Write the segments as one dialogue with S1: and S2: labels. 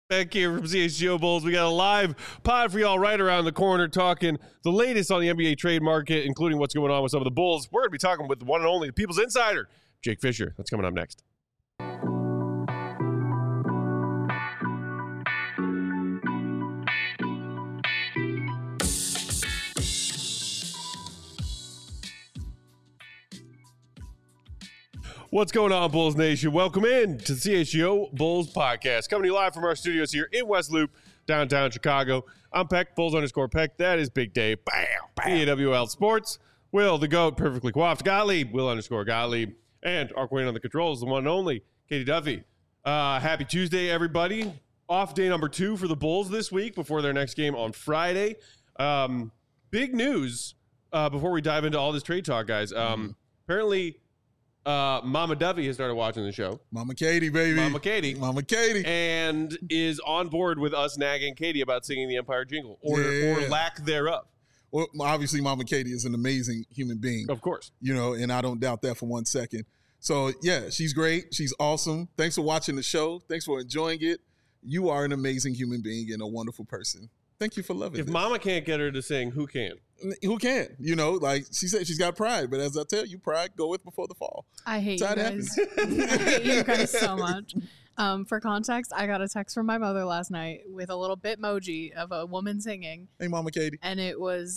S1: Back here from CHGO Bulls, we got a live pod for y'all right around the corner talking the latest on the NBA trade market, including what's going on with some of the Bulls. We're going to be talking with the one and only, the People's Insider, Jake Fisher. That's coming up next. What's going on, Bulls Nation? Welcome in to the CHGO Bulls podcast. Coming to you live from our studios here in West Loop, downtown Chicago. I'm Peck, Bulls_Peck. That is Big Dave. Bam, bam. EWL Sports. Will, the GOAT, perfectly coiffed. Gottlieb, Will_Gottlieb. And our queen on the controls, the one and only, Katie Duffy. Happy Tuesday, everybody. Off day number 2 for the Bulls this week before their next game on Friday. Big news before we dive into all this trade talk, guys. Apparently... Mama Duffy has started watching the show.
S2: Mama Katie, baby.
S1: Mama Katie. And is on board with us nagging Katie about singing the Empire Jingle or lack thereof.
S2: Well, obviously, Mama Katie is an amazing human being.
S1: Of course.
S2: You know, and I don't doubt that for one second. So, yeah, she's great. She's awesome. Thanks for watching the show. Thanks for enjoying it. You are an amazing human being and a wonderful person. Thank you for loving it.
S1: If Mama can't get her to sing, who can?
S2: Who can? You know, like she said, she's got pride. But as I tell you, pride goeth before the fall.
S3: I hate you guys. I hate you guys so much. For context, I got a text from my mother last night with a little Bitmoji of a woman singing.
S2: Hey, Mama Katie.
S3: And it was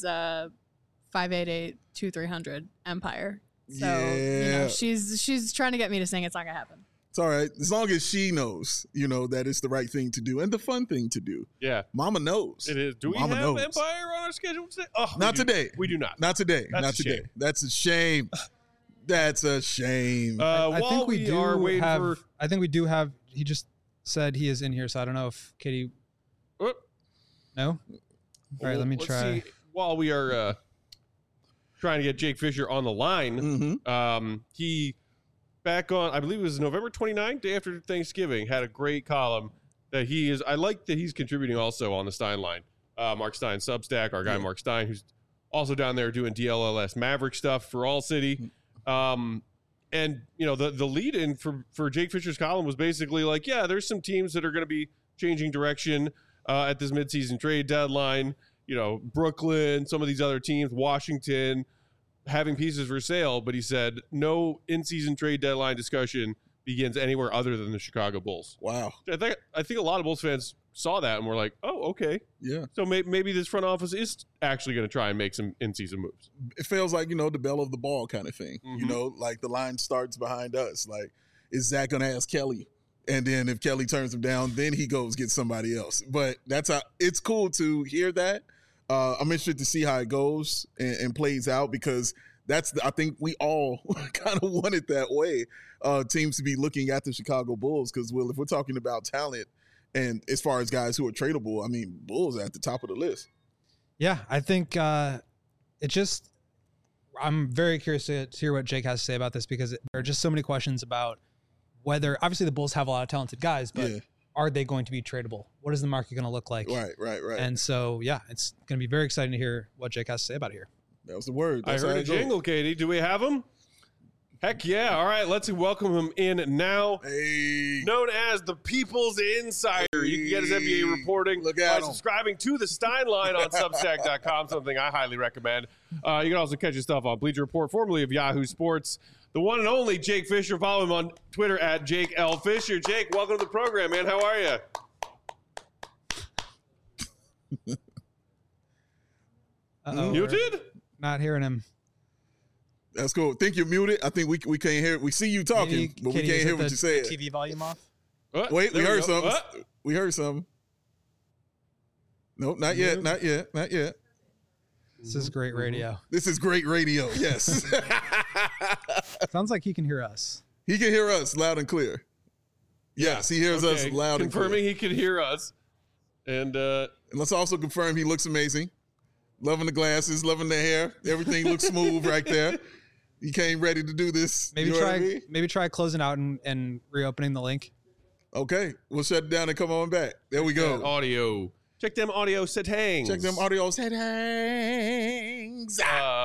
S3: 588-2300 Empire. So, you know, she's trying to get me to sing. It's not going to happen.
S2: It's all right. As long as she knows, you know, that it's the right thing to do and the fun thing to do.
S1: Yeah.
S2: Mama knows.
S1: It is. Do we have Empire on our schedule today? Oh,
S2: not today.
S1: We do not.
S2: Not today.
S1: That's
S2: not today.
S1: Shame.
S2: That's a shame. That's a shame.
S4: I think we do
S1: are waiting
S4: have. I think we do have. He just said he is in here, so I don't know if Katie. No. All right, let me try.
S1: See, while we are trying to get Jake Fisher on the line, he. Back on, I believe it was November 29th, day after Thanksgiving, had a great column that he is. I like that he's contributing also on the Stein line. Mark Stein Substack, our guy Mark Stein, who's also down there doing DLLS Maverick stuff for All City. And, you know, the lead in for Jake Fisher's column was basically like, yeah, there's some teams that are going to be changing direction at this midseason trade deadline. You know, Brooklyn, some of these other teams, Washington, having pieces for sale, but he said no in-season trade deadline discussion begins anywhere other than the Chicago Bulls.
S2: Wow.
S1: I think a lot of Bulls fans saw that and were like, oh, okay.
S2: Yeah.
S1: So maybe this front office is actually going to try and make some in-season moves.
S2: It feels like, you know, the bell of the ball kind of thing. You know, like the line starts behind us. Like, is Zach going to ask Kelly? And then if Kelly turns him down, then he goes get somebody else. But that's how it's cool to hear that. I'm interested to see how it goes and plays out because I think we all kind of want it that way. Teams to be looking at the Chicago Bulls because, well, if we're talking about talent and as far as guys who are tradable, I mean, Bulls are at the top of the list.
S4: Yeah, I think I'm very curious to hear what Jake has to say about this because there are just so many questions about whether, obviously the Bulls have a lot of talented guys, but are they going to be tradable? What is the market going to look like?
S2: Right.
S4: And so, yeah, it's going to be very exciting to hear what Jake has to say about it here.
S2: That was the word.
S1: I heard a jingle, Katie. Do we have him? Heck yeah. All right, let's welcome him in now.
S2: Hey.
S1: Known as the People's Insider. Hey. You can get his NBA reporting by subscribing to the Stein line on Substack.com, something I highly recommend. You can also catch his stuff on Bleacher Report, formerly of Yahoo Sports. The one and only Jake Fisher. Follow him on Twitter at Jake L. Fisher. Jake, welcome to the program, man. How are you? Muted?
S4: Not hearing him.
S2: That's cool. Think you're muted. I think we can't hear. We see you talking, but we can't hear what you said.
S4: TV volume off.
S2: Wait, we heard something. We heard something. Nope, not yet. Not yet.
S4: This is great radio.
S2: Yes.
S4: Sounds like he can hear us.
S2: He can hear us loud and clear. Yes, he hears us loud and clear.
S1: Confirming he can hear us. And
S2: let's also confirm he looks amazing. Loving the glasses, loving the hair. Everything looks smooth right there. He came ready to do this.
S4: Maybe try closing out and reopening the link.
S2: Okay, we'll shut it down and come on back. There we go.
S1: Check them audio settings.
S2: Check them audio settings.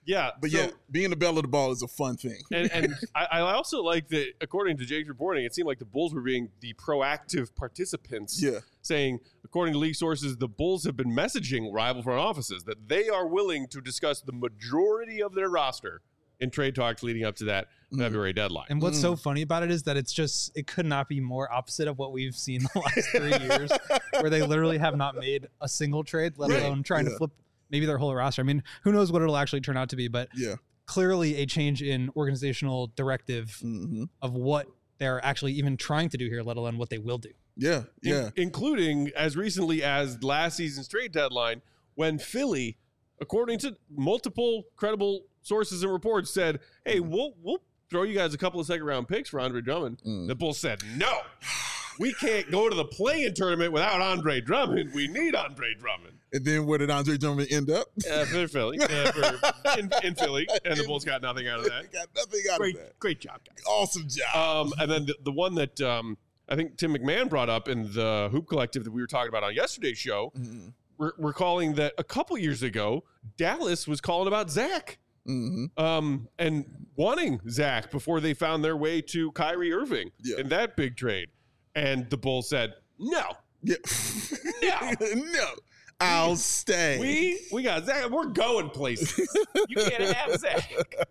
S1: Yeah,
S2: But being the belle of the ball is a fun thing.
S1: And I also like that, according to Jake's reporting, it seemed like the Bulls were being the proactive participants.
S2: Yeah.
S1: Saying, according to league sources, the Bulls have been messaging rival front offices that they are willing to discuss the majority of their roster in trade talks leading up to that February deadline.
S4: And what's so funny about it is that it could not be more opposite of what we've seen the last 3 years, where they literally have not made a single trade, let alone trying to flip maybe their whole roster. I mean, who knows what it'll actually turn out to be, but clearly a change in organizational directive of what they're actually even trying to do here, let alone what they will do.
S2: Yeah,
S1: Including as recently as last season's trade deadline, when Philly, according to multiple credible sources and reports, said, hey, we'll throw you guys a couple of second-round picks for Andre Drummond. The Bulls said, no. We can't go to the play-in tournament without Andre Drummond. We need Andre Drummond.
S2: And then where did Andre Drummond end up?
S1: For Philly. In Philly. And the Bulls got nothing out of that.
S2: Got nothing out of that.
S1: Great job, guys.
S2: Awesome job.
S1: And then the one that I think Tim McMahon brought up in the Hoop Collective that we were talking about on yesterday's show, recalling that a couple years ago, Dallas was calling about Zach. And wanting Zach before they found their way to Kyrie Irving in that big trade. And the Bulls said, no.
S2: Yeah. No. I'll stay.
S1: We got Zach. We're going places. You can't have Zach.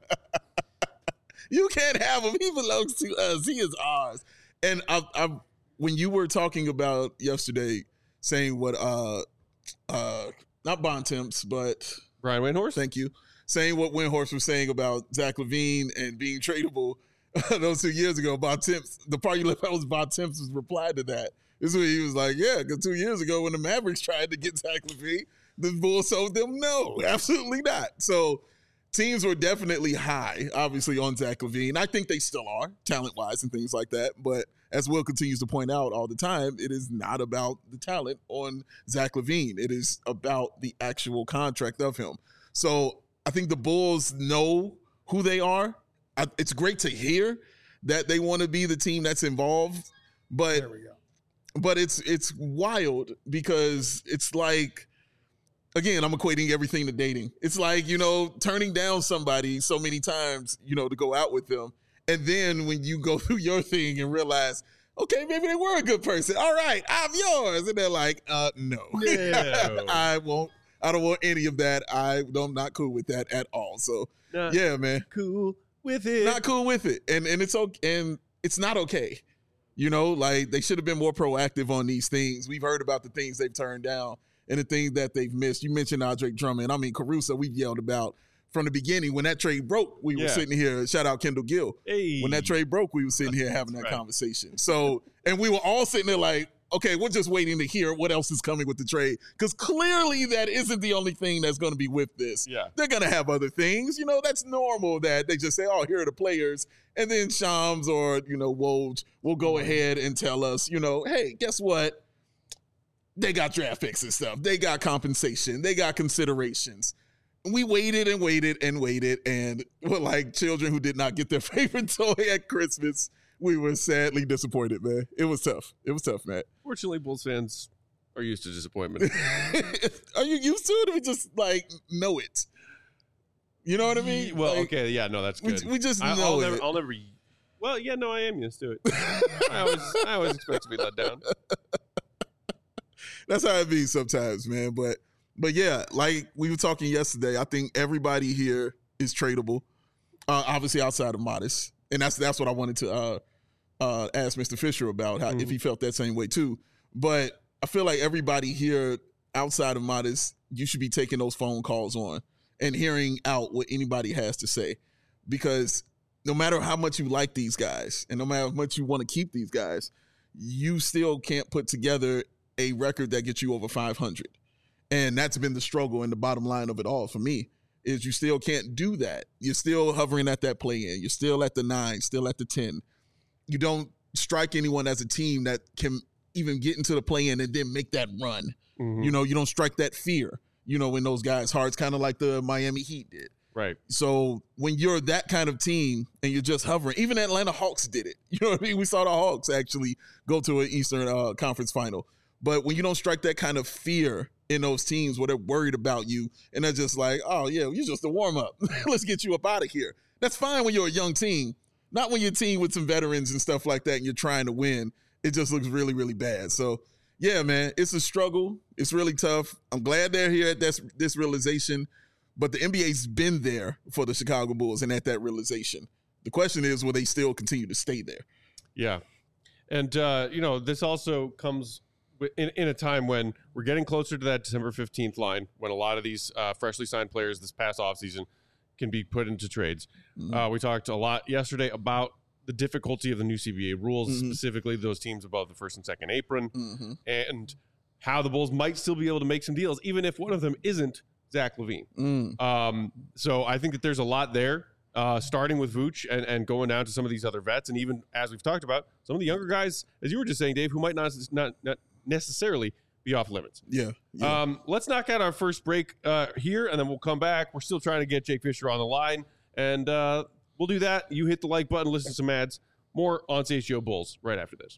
S2: You can't have him. He belongs to us. He is ours. And I when you were talking about yesterday, saying what not Bontemps, but
S1: Brian Windhorst.
S2: Thank you. Saying what Windhorst was saying about Zach LaVine and being tradable those 2 years ago. Bontemps, the part you left out was Bontemps' reply to that. This is where he was like, yeah, because 2 years ago when the Mavericks tried to get Zach LaVine, the Bulls told them no, absolutely not. So teams were definitely high, obviously, on Zach LaVine. I think they still are, talent-wise and things like that. But as Will continues to point out all the time, it is not about the talent on Zach LaVine. It is about the actual contract of him. So I think the Bulls know who they are. It's great to hear that they want to be the team that's involved, but
S4: There we go.
S2: But it's wild because it's like, again, I'm equating everything to dating. It's like, turning down somebody so many times, to go out with them. And then when you go through your thing and realize, okay, maybe they were a good person. All right, I'm yours. And they're like, no. I don't want any of that. I'm not cool with that at all. So, yeah, man.
S1: Cool with it.
S2: Not cool with it. And it's okay. And it's not okay. Like they should have been more proactive on these things. We've heard about the things they've turned down and the things that they've missed. You mentioned Andre Drummond. I mean, Caruso, we've yelled about from the beginning. When that trade broke, we were sitting here. Shout out Kendall Gill.
S1: Hey.
S2: When that trade broke, we were sitting here having that conversation. So, and we were all sitting there like, okay, we're just waiting to hear what else is coming with the trade. Because clearly that isn't the only thing that's going to be with this.
S1: Yeah.
S2: They're going to have other things. That's normal that they just say, oh, here are the players. And then Shams or, Woj will go ahead and tell us, hey, guess what? They got draft picks and stuff. They got compensation. They got considerations. We waited and waited and waited. And we're like children who did not get their favorite toy at Christmas. We were sadly disappointed, man. It was tough. It was tough, Matt.
S1: Fortunately, Bulls fans are used to disappointment.
S2: Are you used to it, or we just know it? You know what I mean?
S1: Well, okay, yeah, no, that's good.
S2: We just know it.
S1: I'll never. Well, yeah, no, I am used to it. I always expect to be let down.
S2: That's how it be sometimes, man. But yeah, like we were talking yesterday, I think everybody here is tradable. Obviously, outside of Modest, and that's what I wanted to ask Mr. Fisher about if he felt that same way too. But I feel like everybody here outside of Modest, you should be taking those phone calls on and hearing out what anybody has to say, because no matter how much you like these guys and no matter how much you want to keep these guys, you still can't put together a record that gets you over 500. And that's been the struggle and the bottom line of it all for me, is you still can't do that. You're still hovering at that play-in. You're still at the 9, still at the 10. You don't strike anyone as a team that can even get into the play-in and then make that run. You don't strike that fear, in those guys' hearts, kind of like the Miami Heat did.
S1: Right.
S2: So when you're that kind of team and you're just hovering, even Atlanta Hawks did it. You know what I mean? We saw the Hawks actually go to an Eastern Conference final. But when you don't strike that kind of fear in those teams where they're worried about you and they're just like, oh, yeah, you're just a warm-up. Let's get you up out of here. That's fine when you're a young team. Not when you're a team with some veterans and stuff like that and you're trying to win. It just looks really, really bad. So, yeah, man, it's a struggle. It's really tough. I'm glad they're here at this realization. But the NBA's been there for the Chicago Bulls and at that realization. The question is, will they still continue to stay there?
S1: Yeah. And, this also comes in a time when we're getting closer to that December 15th line, when a lot of these freshly signed players this past offseason can be put into trades. We talked a lot yesterday about the difficulty of the new CBA rules, specifically those teams above the first and second apron, and how the Bulls might still be able to make some deals, even if one of them isn't Zach LaVine. So I think that there's a lot there, starting with Vooch and going down to some of these other vets. And even as we've talked about, some of the younger guys, as you were just saying, Dave, who might not necessarily be off limits.
S2: Yeah.
S1: Let's knock out our first break here, and then we'll come back. We're still trying to get Jake Fisher on the line, and we'll do that. You hit the like button, listen to some ads. More on CHGO Bulls right after this.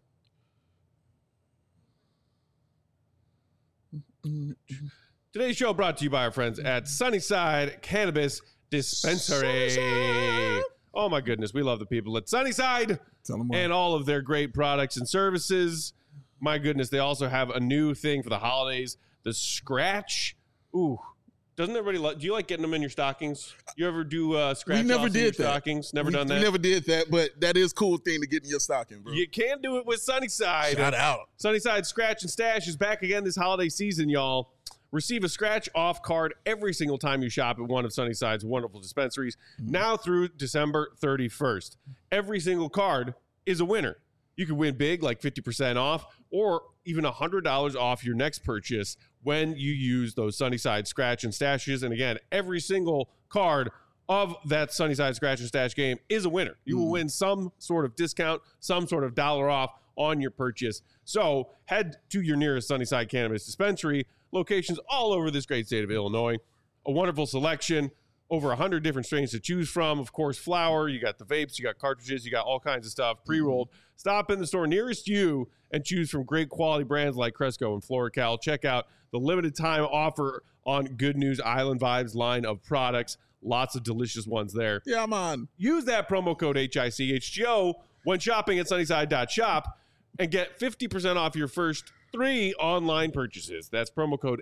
S1: Today's show brought to you by our friends at Sunnyside Cannabis Dispensary. Sunnyside. Oh, my goodness. We love the people at Sunnyside and all of their great products and services. My goodness. They also have a new thing for the holidays, the Scratch. Ooh. Doesn't everybody do you like getting them in your stockings? You ever do scratch
S2: we never
S1: did
S2: did
S1: in your
S2: that.
S1: Stockings? Never done that?
S2: We never did that, but that is a cool thing to get in your stocking, bro.
S1: You can do it with Sunnyside.
S2: Shout out.
S1: Sunnyside Scratch and Stash is back again this holiday season, y'all. Receive a scratch-off card every single time you shop at one of Sunnyside's wonderful dispensaries, now through December 31st. Every single card is a winner. You can win big, like 50% off, or even $100 off your next purchase when you use those Sunnyside Scratch and Stashes. And again, every single card of that Sunnyside Scratch and Stash game is a winner. You will win some sort of discount, some sort of dollar off on your purchase. So head to your nearest Sunnyside Cannabis Dispensary, locations all over this great state of Illinois. A wonderful selection, over 100 different strains to choose from. Of course, flower, you got the vapes, you got cartridges, you got all kinds of stuff pre-rolled. Stop in the store nearest you and choose from great quality brands like Cresco and FloraCal. Check out the limited time offer on Good News Island Vibes line of products. Lots of delicious ones there.
S2: Yeah, man.
S1: Use that promo code HICHGO when shopping at Sunnyside.shop and get 50% off your first 3 online purchases. That's promo code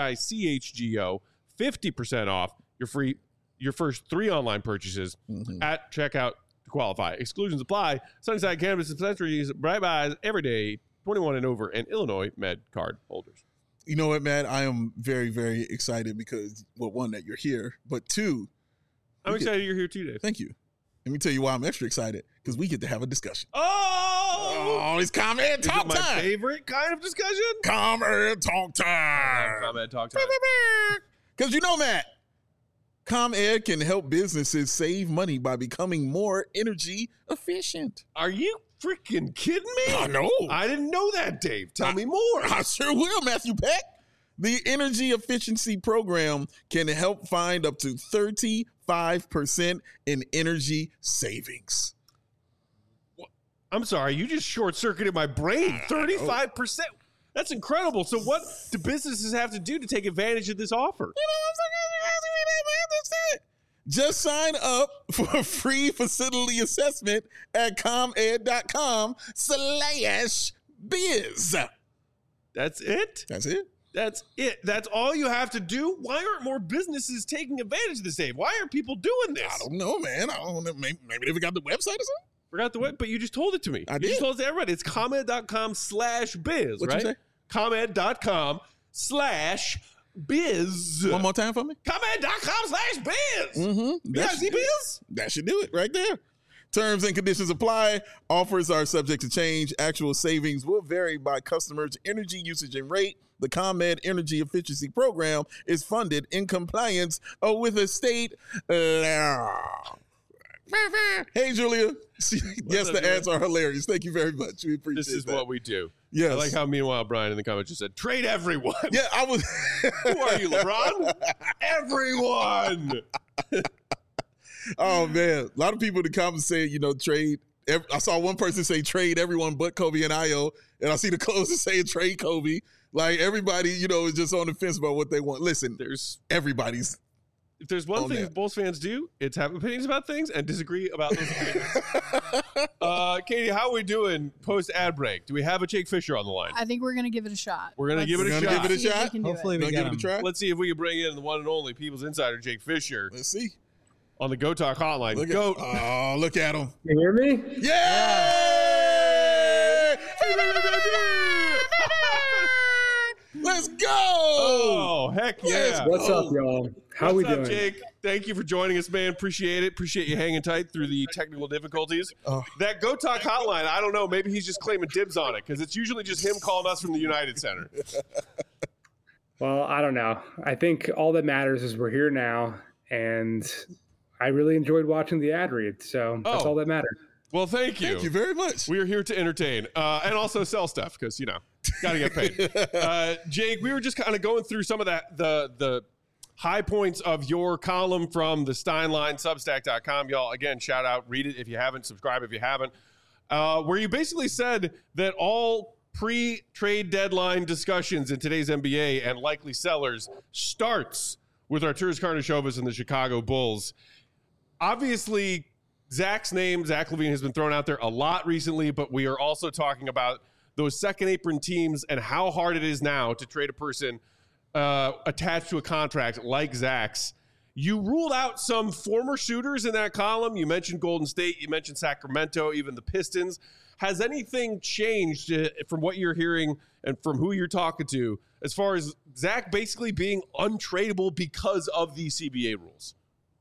S1: HICHGO, 50% off your first 3 online purchases at checkout to qualify. Exclusions apply. Sunnyside Cannabis Dispensaries, buys every day, 21 and over, and Illinois Med card holders.
S2: You know what, Matt? I am very, very excited because, well, one, that you're here, but 2,
S1: I'm excited you're here too, Dave.
S2: Thank you. Let me tell you why I'm extra excited, because we get to have a discussion.
S1: Oh,
S2: it's comment talk
S1: my
S2: time.
S1: favorite kind of discussion.
S2: Comment talk time.
S1: Comment talk time.
S2: Because you know, Matt, ComEd can help businesses save money by becoming more energy efficient.
S1: Are you freaking kidding me?
S2: I know.
S1: I didn't know that, Dave. Tell me more.
S2: I sure will, Matthew Peck. The Energy Efficiency Program can help find up to 35% in energy savings.
S1: I'm sorry, you just short-circuited my brain. 35%. That's incredible. So what do businesses have to do to take advantage of this offer?
S2: You know what I'm saying? Just sign up for a free facility assessment at comed.com/biz.
S1: That's it?
S2: That's it.
S1: That's it. That's all you have to do? Why aren't more businesses taking advantage of this, Dave? Why aren't people doing this?
S2: I don't know, man. I don't know. Maybe they forgot the website or something?
S1: Forgot the web, but you just told it to me.
S2: I
S1: You
S2: did.
S1: just told it to everybody. It's ComEd.com/biz,
S2: What'd
S1: right?
S2: you say?
S1: ComEd.com/biz.
S2: One more time for me.
S1: ComEd.com/biz.
S2: Mm-hmm.
S1: biz?
S2: That should do it right there. Terms and conditions apply. Offers are subject to change. Actual savings will vary by customer's energy usage and rate. The ComEd Energy Efficiency Program is funded in compliance with a state law. Hey, Julia. Yes,
S1: up,
S2: the
S1: Julia?
S2: ads are hilarious. Thank you very much. We appreciate
S1: This is
S2: that.
S1: what we do.
S2: Yes.
S1: I like how, meanwhile, Brian in the comments just said, trade everyone.
S2: Yeah, I was.
S1: Who are you, LeBron? Everyone.
S2: Oh, man. A lot of people in the comments say, trade. I saw one person say trade everyone but Kobe and Io. And I see the closer saying trade Kobe. Like everybody, is just on the fence about what they want. Listen, everybody's.
S1: If there's one thing Bulls fans do, it's have opinions about things and disagree about those opinions. Katie, how are we doing post ad break? Do we have a Jake Fisher on the line?
S3: I think we're gonna give it a shot.
S1: We're gonna give it a shot.
S4: Hopefully we get him.
S1: Let's see if we can bring in the one and only People's Insider, Jake Fisher.
S2: Let's see.
S1: On the Go Talk hotline.
S2: Look at him.
S5: You hear me?
S2: Yeah! Let's go!
S1: Oh, heck yeah.
S5: What's up, y'all? How we doing?
S1: Jake? Thank you for joining us, man. Appreciate it. Appreciate you hanging tight through the technical difficulties. That Go Talk hotline, I don't know. Maybe he's just claiming dibs on it because it's usually just him calling us from the United Center.
S5: Well, I don't know. I think all that matters is we're here now, and I really enjoyed watching the ad read, so that's all that mattered.
S1: Well, thank you.
S2: Thank you very much.
S1: We are here to entertain and also sell stuff because, got to get paid. Jake, we were just kind of going through some of the high points of your column from the Steinline, Substack.com. Y'all, again, shout out, read it if you haven't, subscribe if you haven't, where you basically said that all pre-trade deadline discussions in today's NBA and likely sellers starts with Arturas Karnisovas and the Chicago Bulls. Obviously, Zach's name, Zach LaVine, has been thrown out there a lot recently, but we are also talking about those second apron teams and how hard it is now to trade a person attached to a contract like Zach's. You ruled out some former shooters in that column. You mentioned Golden State. You mentioned Sacramento, even the Pistons. Has anything changed from what you're hearing and from who you're talking to as far as Zach basically being untradeable because of the CBA rules?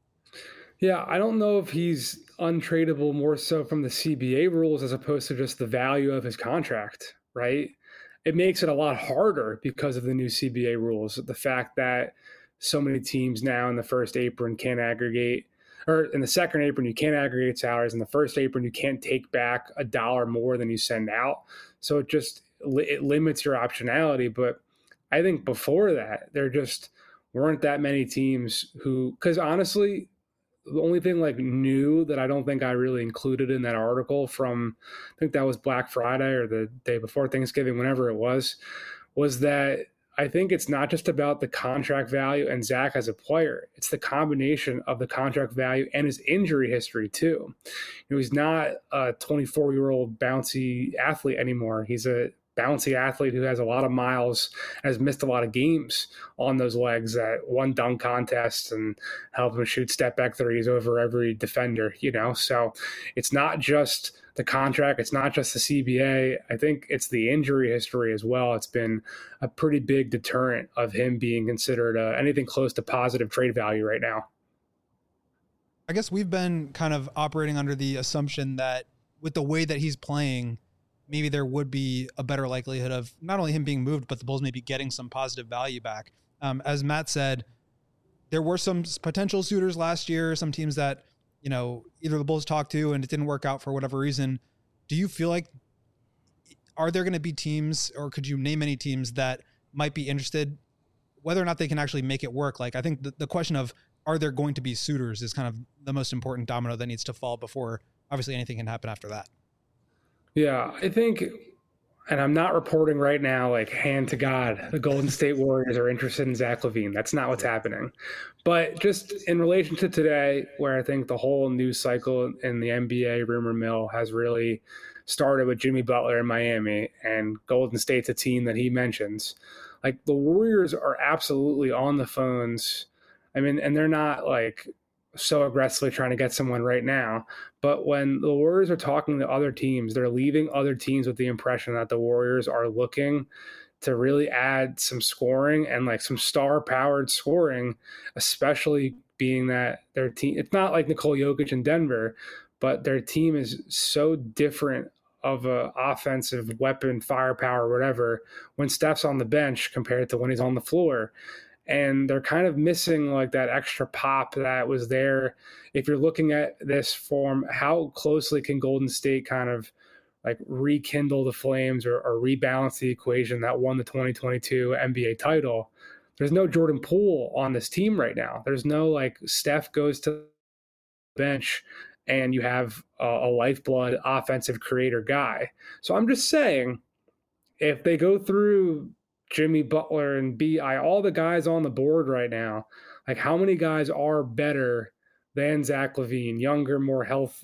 S5: Yeah, I don't know if he's untradeable more so from the CBA rules as opposed to just the value of his contract, right? It makes it a lot harder because of the new CBA rules. The fact that so many teams now in the first apron can't aggregate, or in the second apron, you can't aggregate salaries. In the first apron, you can't take back $1 more than you send out. So it limits your optionality. But I think before that, there just weren't that many teams who, because honestly, the only thing new that I don't think I really included in that article from, I think that was Black Friday or the day before Thanksgiving, whenever it was that I think it's not just about the contract value and Zach as a player. It's the combination of the contract value and his injury history too. He's not a 24-year-old bouncy athlete anymore. He's a bouncy athlete who has a lot of miles, has missed a lot of games on those legs that won dunk contests and helped him shoot step back threes over every defender, So it's not just the contract. It's not just the CBA. I think it's the injury history as well. It's been a pretty big deterrent of him being considered anything close to positive trade value right now.
S4: I guess we've been kind of operating under the assumption that with the way that he's playing, maybe there would be a better likelihood of not only him being moved, but the Bulls maybe getting some positive value back. As Matt said, there were some potential suitors last year, some teams that, either the Bulls talked to and it didn't work out for whatever reason. Do you feel like, are there going to be teams, or could you name any teams that might be interested, whether or not they can actually make it work? I think the question of, are there going to be suitors is kind of the most important domino that needs to fall before obviously anything can happen after that.
S5: Yeah, I think, and I'm not reporting right now, hand to God, the Golden State Warriors are interested in Zach LaVine. That's not what's happening. But just in relation to today, where I think the whole news cycle in the NBA rumor mill has really started with Jimmy Butler in Miami, and Golden State's a team that he mentions. The Warriors are absolutely on the phones. I mean, and they're not so aggressively trying to get someone right now. But when the Warriors are talking to other teams, they're leaving other teams with the impression that the Warriors are looking to really add some scoring and some star-powered scoring, especially being that their team, it's not like Nikola Jokic in Denver, but their team is so different of a offensive weapon, firepower, whatever, when Steph's on the bench compared to when he's on the floor. And they're kind of missing that extra pop that was there. If you're looking at this form, how closely can Golden State kind of rekindle the flames or rebalance the equation that won the 2022 NBA title? There's no Jordan Poole on this team right now. There's no Steph goes to the bench and you have a lifeblood offensive creator guy. So I'm just saying, if they go through Jimmy Butler and B.I., all the guys on the board right now, like how many guys are better than Zach LaVine, younger, more health,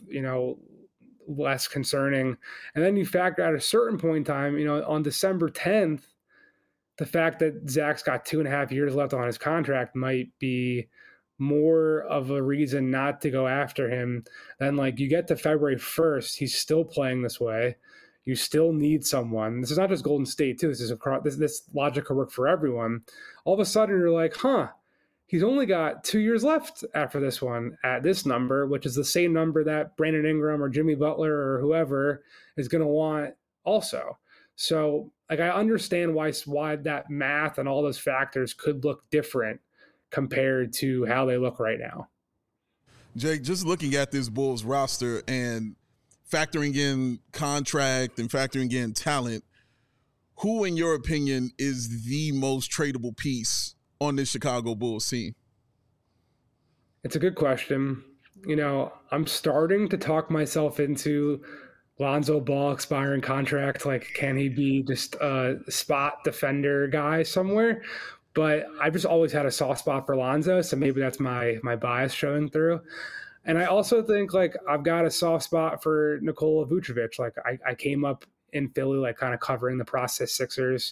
S5: less concerning. And then you factor at a certain point in time, on December 10th, the fact that Zach's got 2.5 years left on his contract might be more of a reason not to go after him. Then like you get to February 1st, he's still playing this way. You still need someone. This is not just Golden State too. This logic could work for everyone. All of a sudden you're like, he's only got 2 years left after this one at this number, which is the same number that Brandon Ingram or Jimmy Butler or whoever is going to want also. So like I understand why that math and all those factors could look different compared to how they look right now.
S2: Jake, just looking at this Bulls roster and factoring in contract and factoring in talent, who in your opinion is the most tradable piece on this Chicago Bulls team?
S5: It's a good question. I'm starting to talk myself into Lonzo Ball expiring contract. Like, can he be just a spot defender guy somewhere? But I've just always had a soft spot for Lonzo, so maybe that's my bias showing through. And I also think, like, I've got a soft spot for Nikola Vucevic. Like, I came up in Philly, like, kind of covering the process Sixers,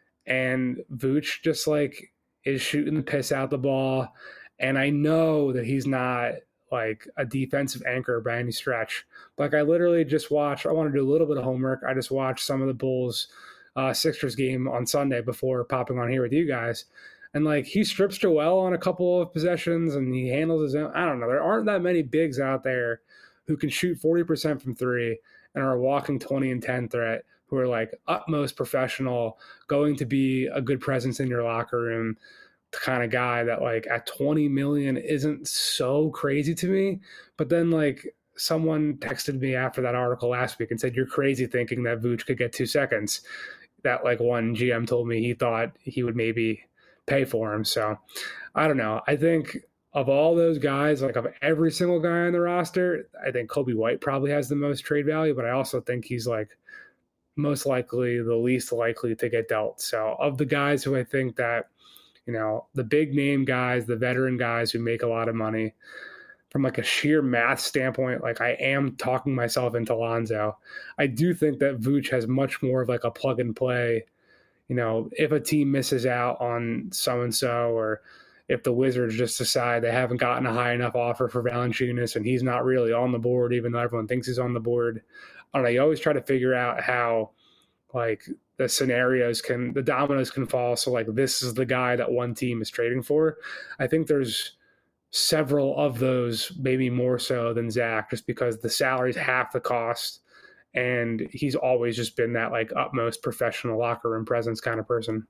S5: and Vuce just, like, is shooting the piss out the ball. And I know that he's not, like, a defensive anchor by any stretch. Like, I literally just watched – I want to do a little bit of homework. I just watched some of the Bulls Sixers game on Sunday before popping on here with you guys. And, like, he strips Joel on a couple of possessions and he handles his own. I don't know. There aren't that many bigs out there who can shoot 40% from three and are a walking 20 and 10 threat, who are, like, utmost professional, going to be a good presence in your locker room, the kind of guy that, like, at 20 million isn't so crazy to me. But then, like, someone texted me after that article last week and said, you're crazy thinking that Vooch could get 2 seconds. That, like, one GM told me he thought he would maybe pay for him. So I don't know. I think of all those guys, like, of every single guy on the roster, I think Kobe White probably has the most trade value, but I also think he's, like, most likely the least likely to get dealt. So of the guys who I think that, the big name guys, the veteran guys who make a lot of money, from, like, a sheer math standpoint, like, I am talking myself into Lonzo. I do think that Vooch has much more of, like, a plug and play. If a team misses out on so-and-so, or if the Wizards just decide they haven't gotten a high enough offer for Valanciunas and he's not really on the board, even though everyone thinks he's on the board, I don't know, you always try to figure out how, like, the dominoes can fall. So, like, this is the guy that one team is trading for. I think there's several of those, maybe more so than Zach, just because the salary's half the cost. And he's always just been that, like, utmost professional locker room presence kind of person.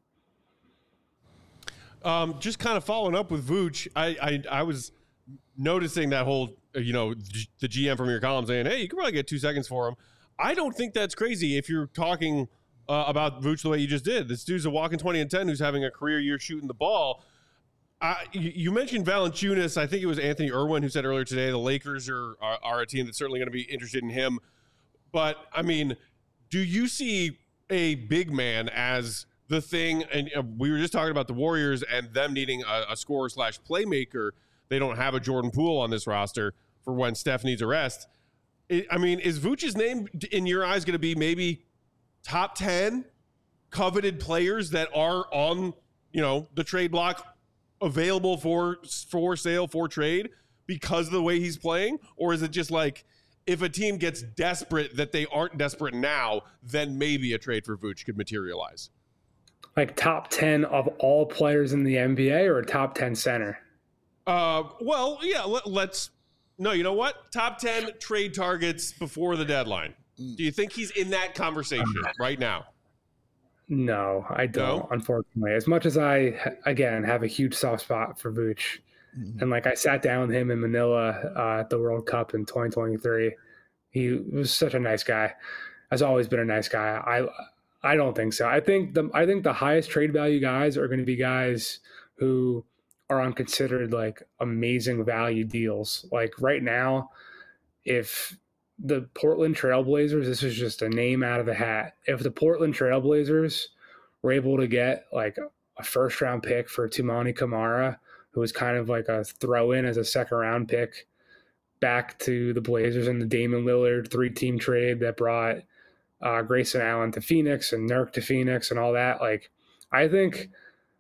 S1: Just kind of following up with Vooch, I was noticing that whole, the GM from your column saying, hey, you can probably get 2 seconds for him. I don't think that's crazy if you're talking about Vooch the way you just did. This dude's a walking 20 and 10 who's having a career year shooting the ball. You mentioned Valanciunas. I think it was Anthony Irwin who said earlier today the Lakers are a team that's certainly going to be interested in him. But, I mean, do you see a big man as the thing? And we were just talking about the Warriors and them needing a scorer/playmaker. They don't have a Jordan Poole on this roster for when Steph needs a rest. Is Vooch's name, in your eyes, going to be maybe top 10 coveted players that are on, the trade block available for sale, for trade because of the way he's playing? Or is it just like, if a team gets desperate that they aren't desperate now, then maybe a trade for Vooch could materialize?
S5: Like top 10 of all players in the NBA or a top 10 center?
S1: Well, yeah, no, you know what? Top 10 trade targets before the deadline. Do you think he's in that conversation right now?
S5: No, I don't, unfortunately. As much as I, again, have a huge soft spot for Vooch. And, like, I sat down with him in Manila at the World Cup in 2023. He was such a nice guy. Has always been a nice guy. I don't think so. I think the highest trade value guys are going to be guys who are on considered, like, amazing value deals. Like, right now, if the Portland Trailblazers, this is just a name out of the hat, if the Portland Trailblazers were able to get like a first round pick for Toumani Camara, who was kind of like a throw in as a second round pick back to the Blazers, in the Damian Lillard 3-team trade that brought Grayson Allen to Phoenix and Nurk to Phoenix and all that. Like, I think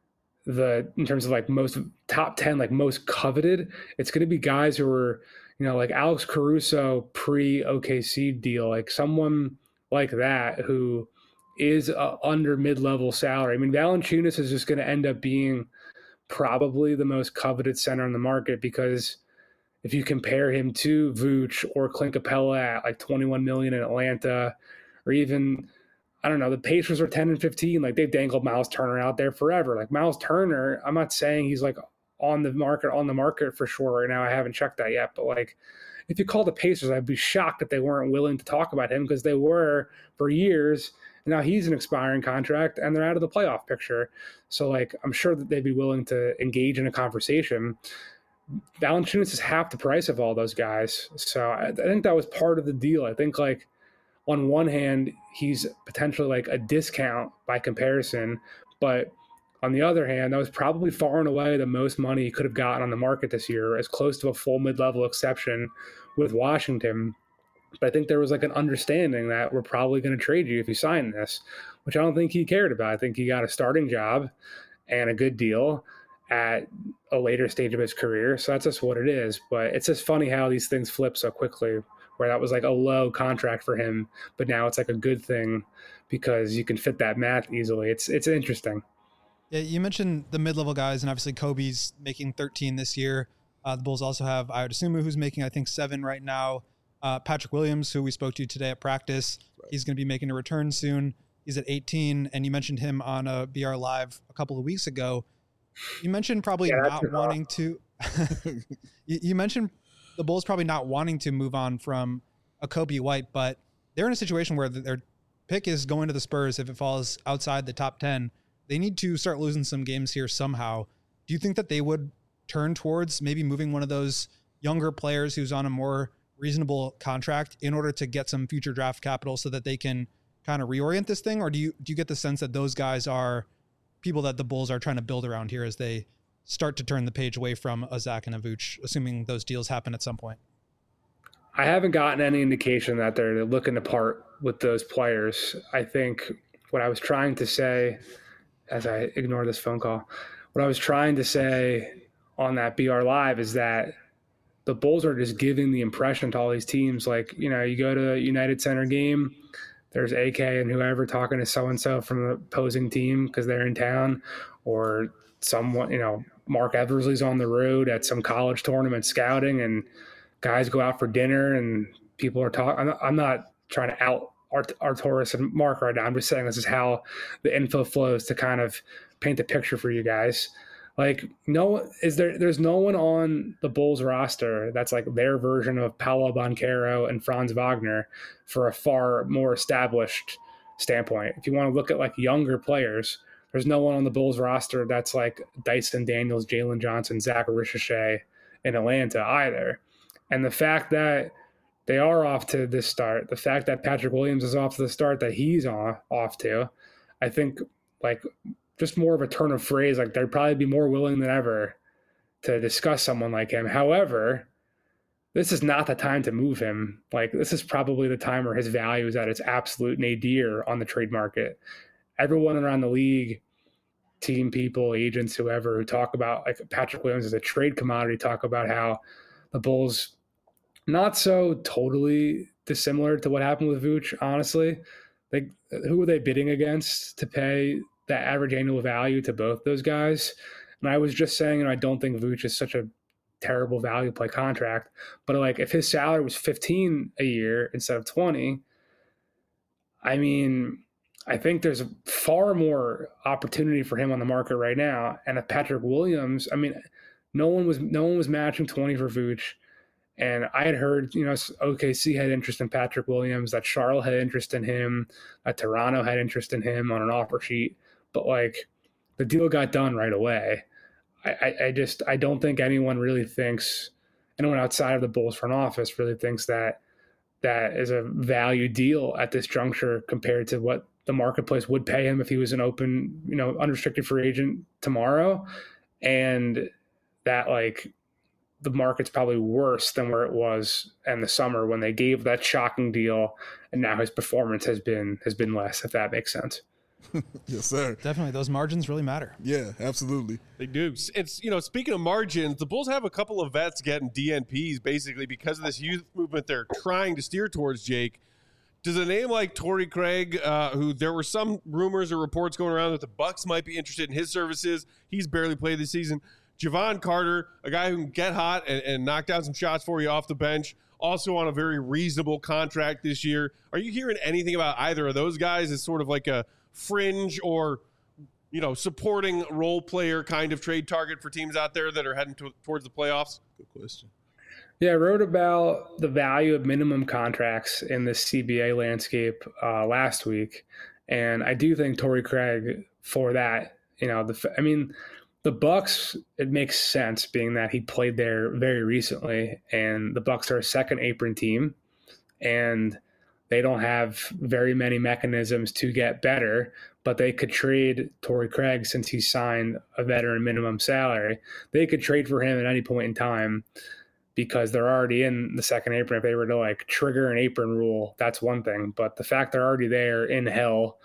S5: in terms of like most top 10, like most coveted, it's going to be guys who are, like Alex Caruso pre OKC deal, like someone like that who is under mid-level salary. I mean, Valanciunas is just going to end up being probably the most coveted center in the market, because if you compare him to Vooch or Clint Capella at like 21 million in Atlanta, or even, I don't know, the Pacers are 10 and 15, like they've dangled Miles Turner out there forever. Like Miles Turner, I'm not saying he's like on the market for sure right now. I haven't checked that yet, but like if you call the Pacers, I'd be shocked if they weren't willing to talk about him, because they were for years. And now he's an expiring contract and they're out of the playoff picture. So like, I'm sure that they'd be willing to engage in a conversation. Valanciunas is half the price of all those guys. So I think that was part of the deal. I think like on one hand, he's potentially like a discount by comparison, but on the other hand, that was probably far and away the most money he could have gotten on the market this year, as close to a full mid-level exception with Washington. But I think there was like an understanding that we're probably going to trade you if you sign this, which I don't think he cared about. I think he got a starting job and a good deal at a later stage of his career. So that's just what it is. But it's just funny how these things flip so quickly, where that was like a low contract for him, but now it's like a good thing because you can fit that math easily. It's interesting.
S4: Yeah, you mentioned the mid-level guys, and obviously Kobe's making 13 this year. The Bulls also have Ayo Dosunmu, who's making, I think, 7 right now. Patrick Williams, who we spoke to today at practice, he's going to be making a return soon. He's at 18, and you mentioned him on a BR Live a couple of weeks ago. You mentioned probably not wanting to. You mentioned the Bulls probably not wanting to move on from a Kobe White, but they're in a situation where their pick is going to the Spurs if it falls outside the top 10. They need to start losing some games here somehow. Do you think that they would turn towards maybe moving one of those younger players who's on a more reasonable contract in order to get some future draft capital so that they can kind of reorient this thing? Or do you get the sense that those guys are people that the Bulls are trying to build around here as they start to turn the page away from a Zach and a Vooch, assuming those deals happen at some point?
S5: I haven't gotten any indication that they're looking to part with those players. I think what I was trying to say, as I ignore this phone call, what I was trying to say on that BR Live is that the Bulls are just giving the impression to all these teams, like, you go to a United Center game, there's AK and whoever talking to so-and-so from the opposing team because they're in town, or someone, Mark Eversley's on the road at some college tournament scouting, and guys go out for dinner and people are talking. I'm not trying to out Arturas and Mark right now. I'm just saying this is how the info flows to kind of paint the picture for you guys. Like, there's no one on the Bulls roster that's like their version of Paolo Banchero and Franz Wagner for a far more established standpoint. If you want to look at like younger players, there's no one on the Bulls roster that's like Dyson Daniels, Jalen Johnson, Zach Ricochet in Atlanta either. And the fact that they are off to this start, the fact that Patrick Williams is off to the start that he's off to, I think like just more of a turn of phrase, like they'd probably be more willing than ever to discuss someone like him. However, this is not the time to move him. Like, this is probably the time where his value is at its absolute nadir on the trade market. Everyone around the league, team people, agents, whoever, who talk about like Patrick Williams as a trade commodity, talk about how the Bulls, not so totally dissimilar to what happened with Vooch, honestly. Like, who were they bidding against to pay that average annual value to both those guys? And I was just saying, I don't think Vooch is such a terrible value play contract, but like if his salary was 15 a year instead of 20, I mean, I think there's far more opportunity for him on the market right now. And if Patrick Williams, I mean, no one was matching 20 for Vooch. And I had heard, OKC had interest in Patrick Williams, that Charlotte had interest in him, that Toronto had interest in him on an offer sheet. But like, the deal got done right away. I don't think anyone outside of the Bulls front office really thinks that is a value deal at this juncture compared to what the marketplace would pay him if he was an open, unrestricted free agent tomorrow. And that like the market's probably worse than where it was in the summer when they gave that shocking deal, and now his performance has been less, if that makes sense.
S2: Yes, sir.
S4: Definitely. Those margins really matter.
S2: Yeah, absolutely.
S1: They do. It's, speaking of margins, the Bulls have a couple of vets getting DNPs basically because of this youth movement they're trying to steer towards, Jake. Does a name like Torrey Craig, who there were some rumors or reports going around that the Bucks might be interested in his services. He's barely played this season. Javon Carter, a guy who can get hot and knock down some shots for you off the bench, also on a very reasonable contract this year. Are you hearing anything about either of those guys as sort of like a fringe or, supporting role player kind of trade target for teams out there that are heading towards the playoffs?
S2: Good question.
S5: Yeah, I wrote about the value of minimum contracts in the CBA landscape last week. And I do think Torrey Craig for that, the Bucks, it makes sense being that he played there very recently, and the Bucks are a second apron team, and they don't have very many mechanisms to get better, but they could trade Torrey Craig since he signed a veteran minimum salary. They could trade for him at any point in time because they're already in the second apron. If they were to like trigger an apron rule, that's one thing, but the fact they're already there in hell,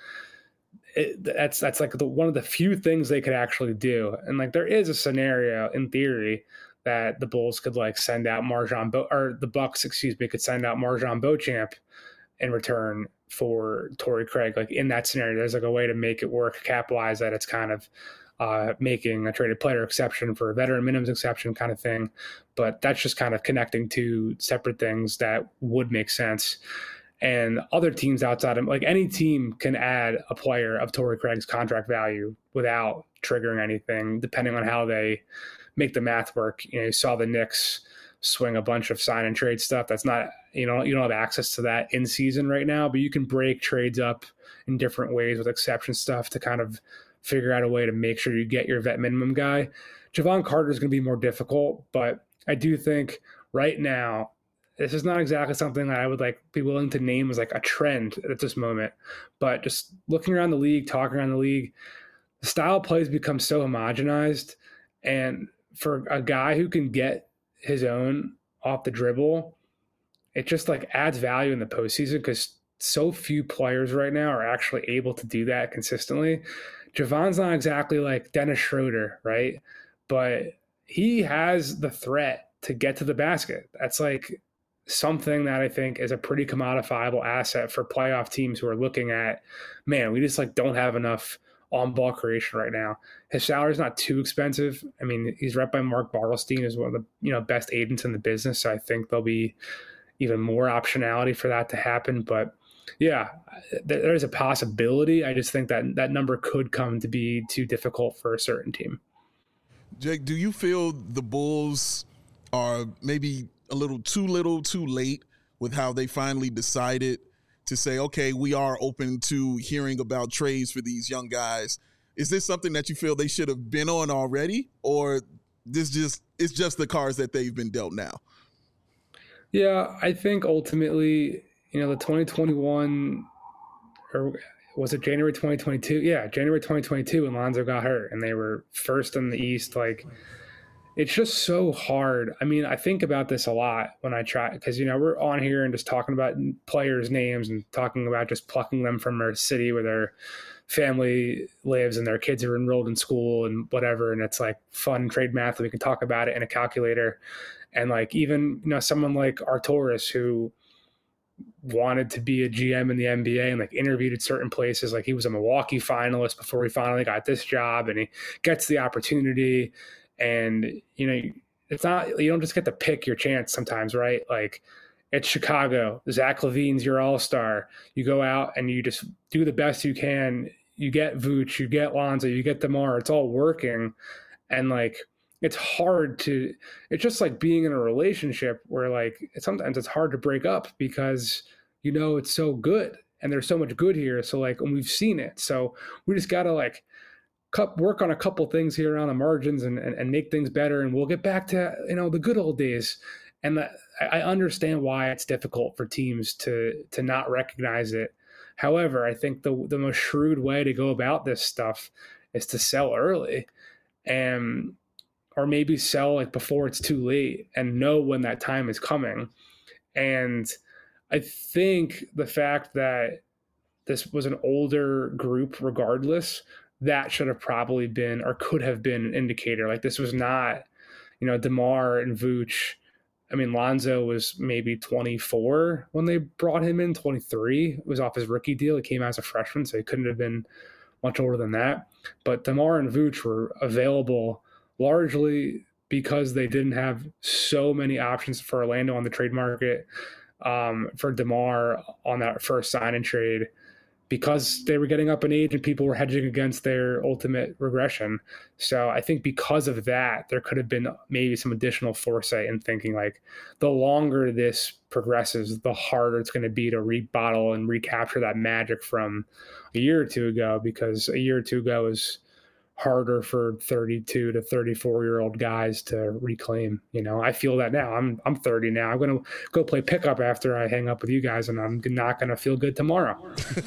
S5: that's like one of the few things they could actually do. And like there is a scenario in theory that the Bulls could like send out the Bucks, could send out Marjon Beauchamp in return for Torrey Craig. Like in that scenario, there's like a way to make it work, capitalize that it's kind of making a traded player exception for a veteran minimums exception kind of thing. But that's just kind of connecting two separate things that would make sense. And other teams outside of, like any team can add a player of Torrey Craig's contract value without triggering anything, depending on how they make the math work. You saw the Knicks swing a bunch of sign and trade stuff. That's not, you don't have access to that in season right now, but you can break trades up in different ways with exception stuff to kind of figure out a way to make sure you get your vet minimum guy. Javon Carter is going to be more difficult, but I do think right now, this is not exactly something that I would be willing to name as like a trend at this moment, but just looking around the league, talking around the league, the style of plays become so homogenized. And for a guy who can get his own off the dribble, it just adds value in the postseason because so few players right now are actually able to do that consistently. Javon's not exactly like Dennis Schroeder, right? But he has the threat to get to the basket. That's something that I think is a pretty commodifiable asset for playoff teams who are looking at, man, we just don't have enough on-ball creation right now. His salary is not too expensive. I mean, he's rep by Mark Bartelstein, is one of the best agents in the business. So I think there'll be even more optionality for that to happen. But yeah, there's a possibility. I just think that number could come to be too difficult for a certain team.
S2: Jake, do you feel the Bulls are maybe a little too late with how they finally decided to say, okay, we are open to hearing about trades for these young guys? Is this something that you feel they should have been on already, or it's just the cards that they've been dealt now?
S5: Yeah, I think ultimately, the 2021, or was it January 2022? Yeah, January 2022 when Lonzo got hurt and they were first in the East. It's just so hard. I mean, I think about this a lot when I try, because, we're on here and just talking about players' names and talking about just plucking them from their city where their family lives and their kids are enrolled in school and whatever. And it's fun trade math. We can talk about it in a calculator. And even, someone like Arturas, who wanted to be a GM in the NBA and interviewed at certain places. He was a Milwaukee finalist before he finally got this job, and he gets the opportunity. And, it's not, you don't just get to pick your chance sometimes, right? It's Chicago. Zach LaVine's your all-star. You go out and you just do the best you can. You get Vooch, you get Lonzo, you get DeMar. It's all working. And it's hard to, it's just like being in a relationship where sometimes it's hard to break up because, it's so good and there's so much good here. So and we've seen it. So we just got to work on a couple things here around the margins and make things better. And we'll get back to, the good old days. And I understand why it's difficult for teams to not recognize it. However, I think the most shrewd way to go about this stuff is to sell early, and or maybe sell like before it's too late and know when that time is coming. And I think the fact that this was an older group, regardless, that should have probably been or could have been an indicator. Like this was not, DeMar and Vooch. I mean, Lonzo was maybe 24 when they brought him in, 23. It was off his rookie deal. He came out as a freshman, so he couldn't have been much older than that. But DeMar and Vooch were available largely because they didn't have so many options for Orlando on the trade market, for DeMar on that first sign and trade, because they were getting up in age and people were hedging against their ultimate regression. So I think because of that, there could have been maybe some additional foresight in thinking like the longer this progresses, the harder it's going to be to rebottle and recapture that magic from a year or two ago, because a year or two ago is harder for 32 to 34-year-old guys to reclaim. I feel that now. I'm 30 now. I'm going to go play pickup after I hang up with you guys, and I'm not going to feel good tomorrow.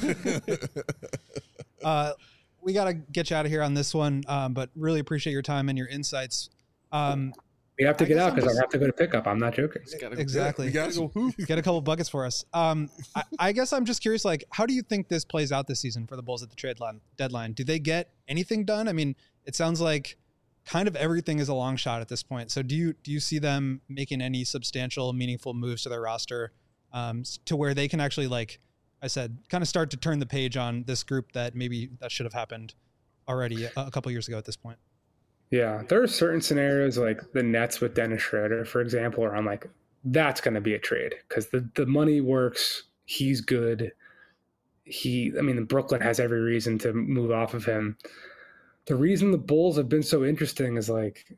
S4: We got to get you out of here on this one, but really appreciate your time and your insights.
S5: We have to get out because I have to go to pickup. I'm not joking.
S4: Exactly.
S2: You gotta go hoop.
S4: Get a couple buckets for us. I guess I'm just curious, like, how do you think this plays out this season for the Bulls at the trade deadline? Do they get anything done? I mean, it sounds like kind of everything is a long shot at this point. So do you see them making any substantial, meaningful moves to their roster to where they can actually, like I said, kind of start to turn the page on this group that maybe that should have happened already a couple years ago at this point?
S5: Yeah, there are certain scenarios like the Nets with Dennis Schroeder, for example, where I'm like, that's going to be a trade because the money works. He's good. Brooklyn has every reason to move off of him. The reason the Bulls have been so interesting is like,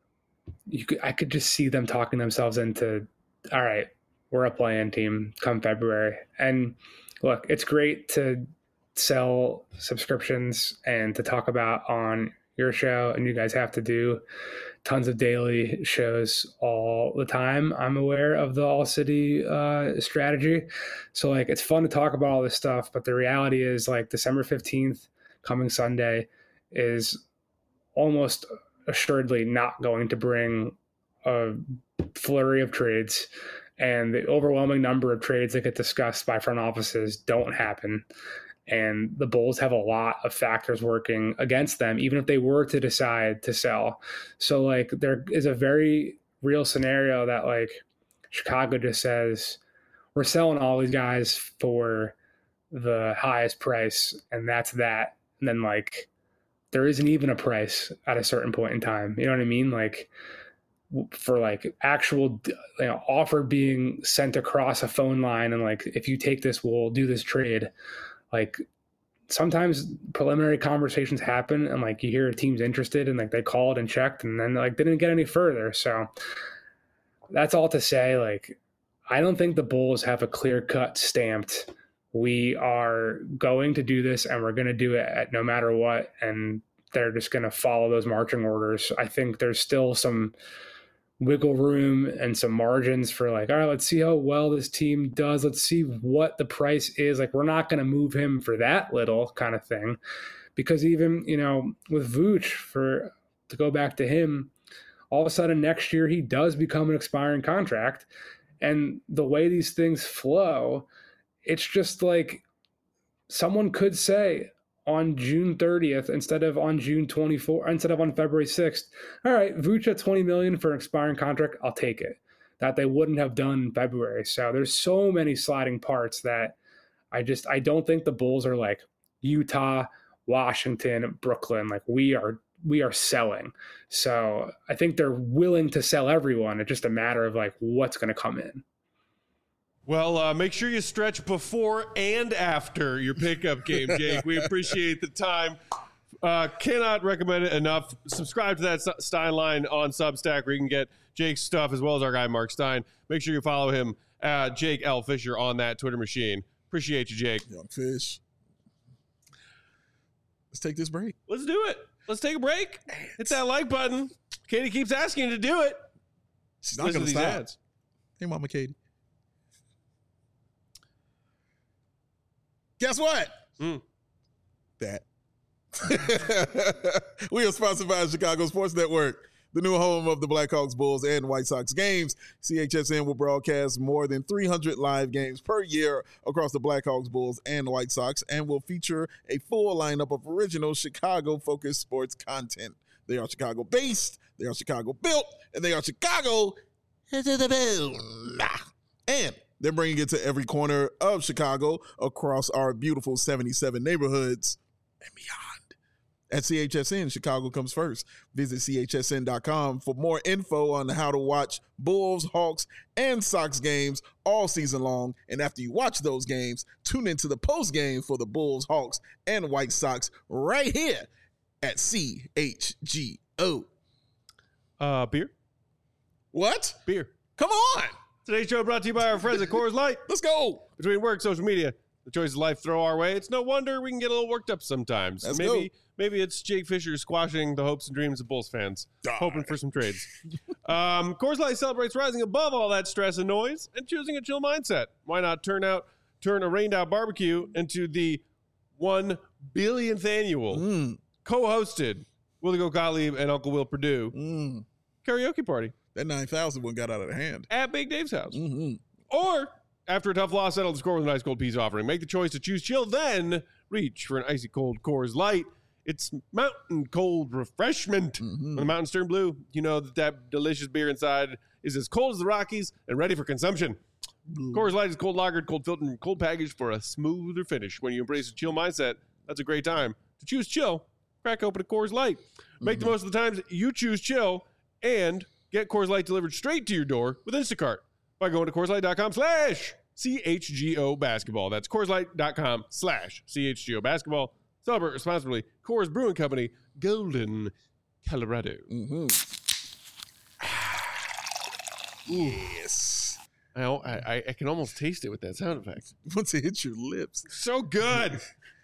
S5: I could just see them talking themselves into, all right, we're a play-in team come February. And look, it's great to sell subscriptions and to talk about on your show, and you guys have to do tons of daily shows all the time. I'm aware of the All City strategy. So like, it's fun to talk about all this stuff, but the reality is like December 15th coming Sunday is almost assuredly not going to bring a flurry of trades, and the overwhelming number of trades that get discussed by front offices don't happen. And the Bulls have a lot of factors working against them, even if they were to decide to sell. So like, there is a very real scenario that like Chicago just says, we're selling all these guys for the highest price, and that's that. And then like, there isn't even a price at a certain point in time. You know what I mean? Like, for like actual offer being sent across a phone line, and like, if you take this, we'll do this trade. Like, sometimes preliminary conversations happen and like you hear a team's interested and like they called and checked and then like didn't get any further. So that's all to say, like, I don't think the Bulls have a clear cut stamped, we are going to do this and we're going to do it at no matter what. And they're just going to follow those marching orders. I think there's still some wiggle room and some margins for like, all right, let's see how well this team does. Let's see what the price is. Like, we're not going to move him for that little kind of thing, because even, with Vooch, to go back to him, all of a sudden next year, he does become an expiring contract. And the way these things flow, it's just like someone could say on June 30th, instead of on February 6th, all right, Vooch at $20 million for an expiring contract, I'll take it. That they wouldn't have done in February. So there's so many sliding parts that I don't think the Bulls are like Utah, Washington, Brooklyn. Like, we are selling. So I think they're willing to sell everyone. It's just a matter of like what's going to come in.
S1: Well, make sure you stretch before and after your pickup game, Jake. We appreciate the time. Cannot recommend it enough. Subscribe to that Stein line on Substack, where you can get Jake's stuff as well as our guy Mark Stein. Make sure you follow him at Jake L. Fisher on that Twitter machine. Appreciate you, Jake.
S2: Young Fish. Let's take this break.
S1: Let's do it. Let's take a break. Hit that like button. Katie keeps asking you to do it.
S2: She's not going to stop. Ads. Hey, Mama Katie. Guess what? That. We are sponsored by Chicago Sports Network, the new home of the Blackhawks, Bulls, and White Sox games. CHSN will broadcast more than 300 live games per year across the Blackhawks, Bulls, and White Sox, and will feature a full lineup of original Chicago-focused sports content. They are Chicago-based, they are Chicago-built, and they are Chicago into the build. And they're bringing it to every corner of Chicago across our beautiful 77 neighborhoods and beyond. At CHSN, Chicago comes first. Visit chsn.com for more info on how to watch Bulls, Hawks, and Sox games all season long. And after you watch those games, tune into the post game for the Bulls, Hawks, and White Sox right here at CHGO.
S1: Beer?
S2: What?
S1: Beer.
S2: Come on.
S1: Today's show brought to you by our friends at Coors Light.
S2: Let's go.
S1: Between work, social media, the choices life throw our way, it's no wonder we can get a little worked up sometimes. Maybe it's Jake Fisher squashing the hopes and dreams of Bulls fans, hoping for some trades. Coors Light celebrates rising above all that stress and noise and choosing a chill mindset. Why not turn a rained-out barbecue into the 1 billionth annual co-hosted Willie Gottlieb and Uncle Will Perdue karaoke party?
S2: That 9,000 one got out of hand.
S1: At Big Dave's house. Or, after a tough loss, settle the score with an ice cold peace offering. Make the choice to choose chill, then reach for an icy cold Coors Light. It's mountain cold refreshment. When the mountains turn blue, you know that delicious beer inside is as cold as the Rockies and ready for consumption. Coors Light is cold lagered, cold filtered, and cold packaged for a smoother finish. When you embrace a chill mindset, that's a great time. To choose chill, crack open a Coors Light. Make the most of the times you choose chill and get Coors Light delivered straight to your door with Instacart by going to CoorsLight.com/CHGO basketball. That's CoorsLight.com/CHGO basketball. Celebrate responsibly. Coors Brewing Company, Golden, Colorado.
S2: Yes.
S1: I can almost taste it with that sound effect.
S2: Once it hits your lips.
S1: So good.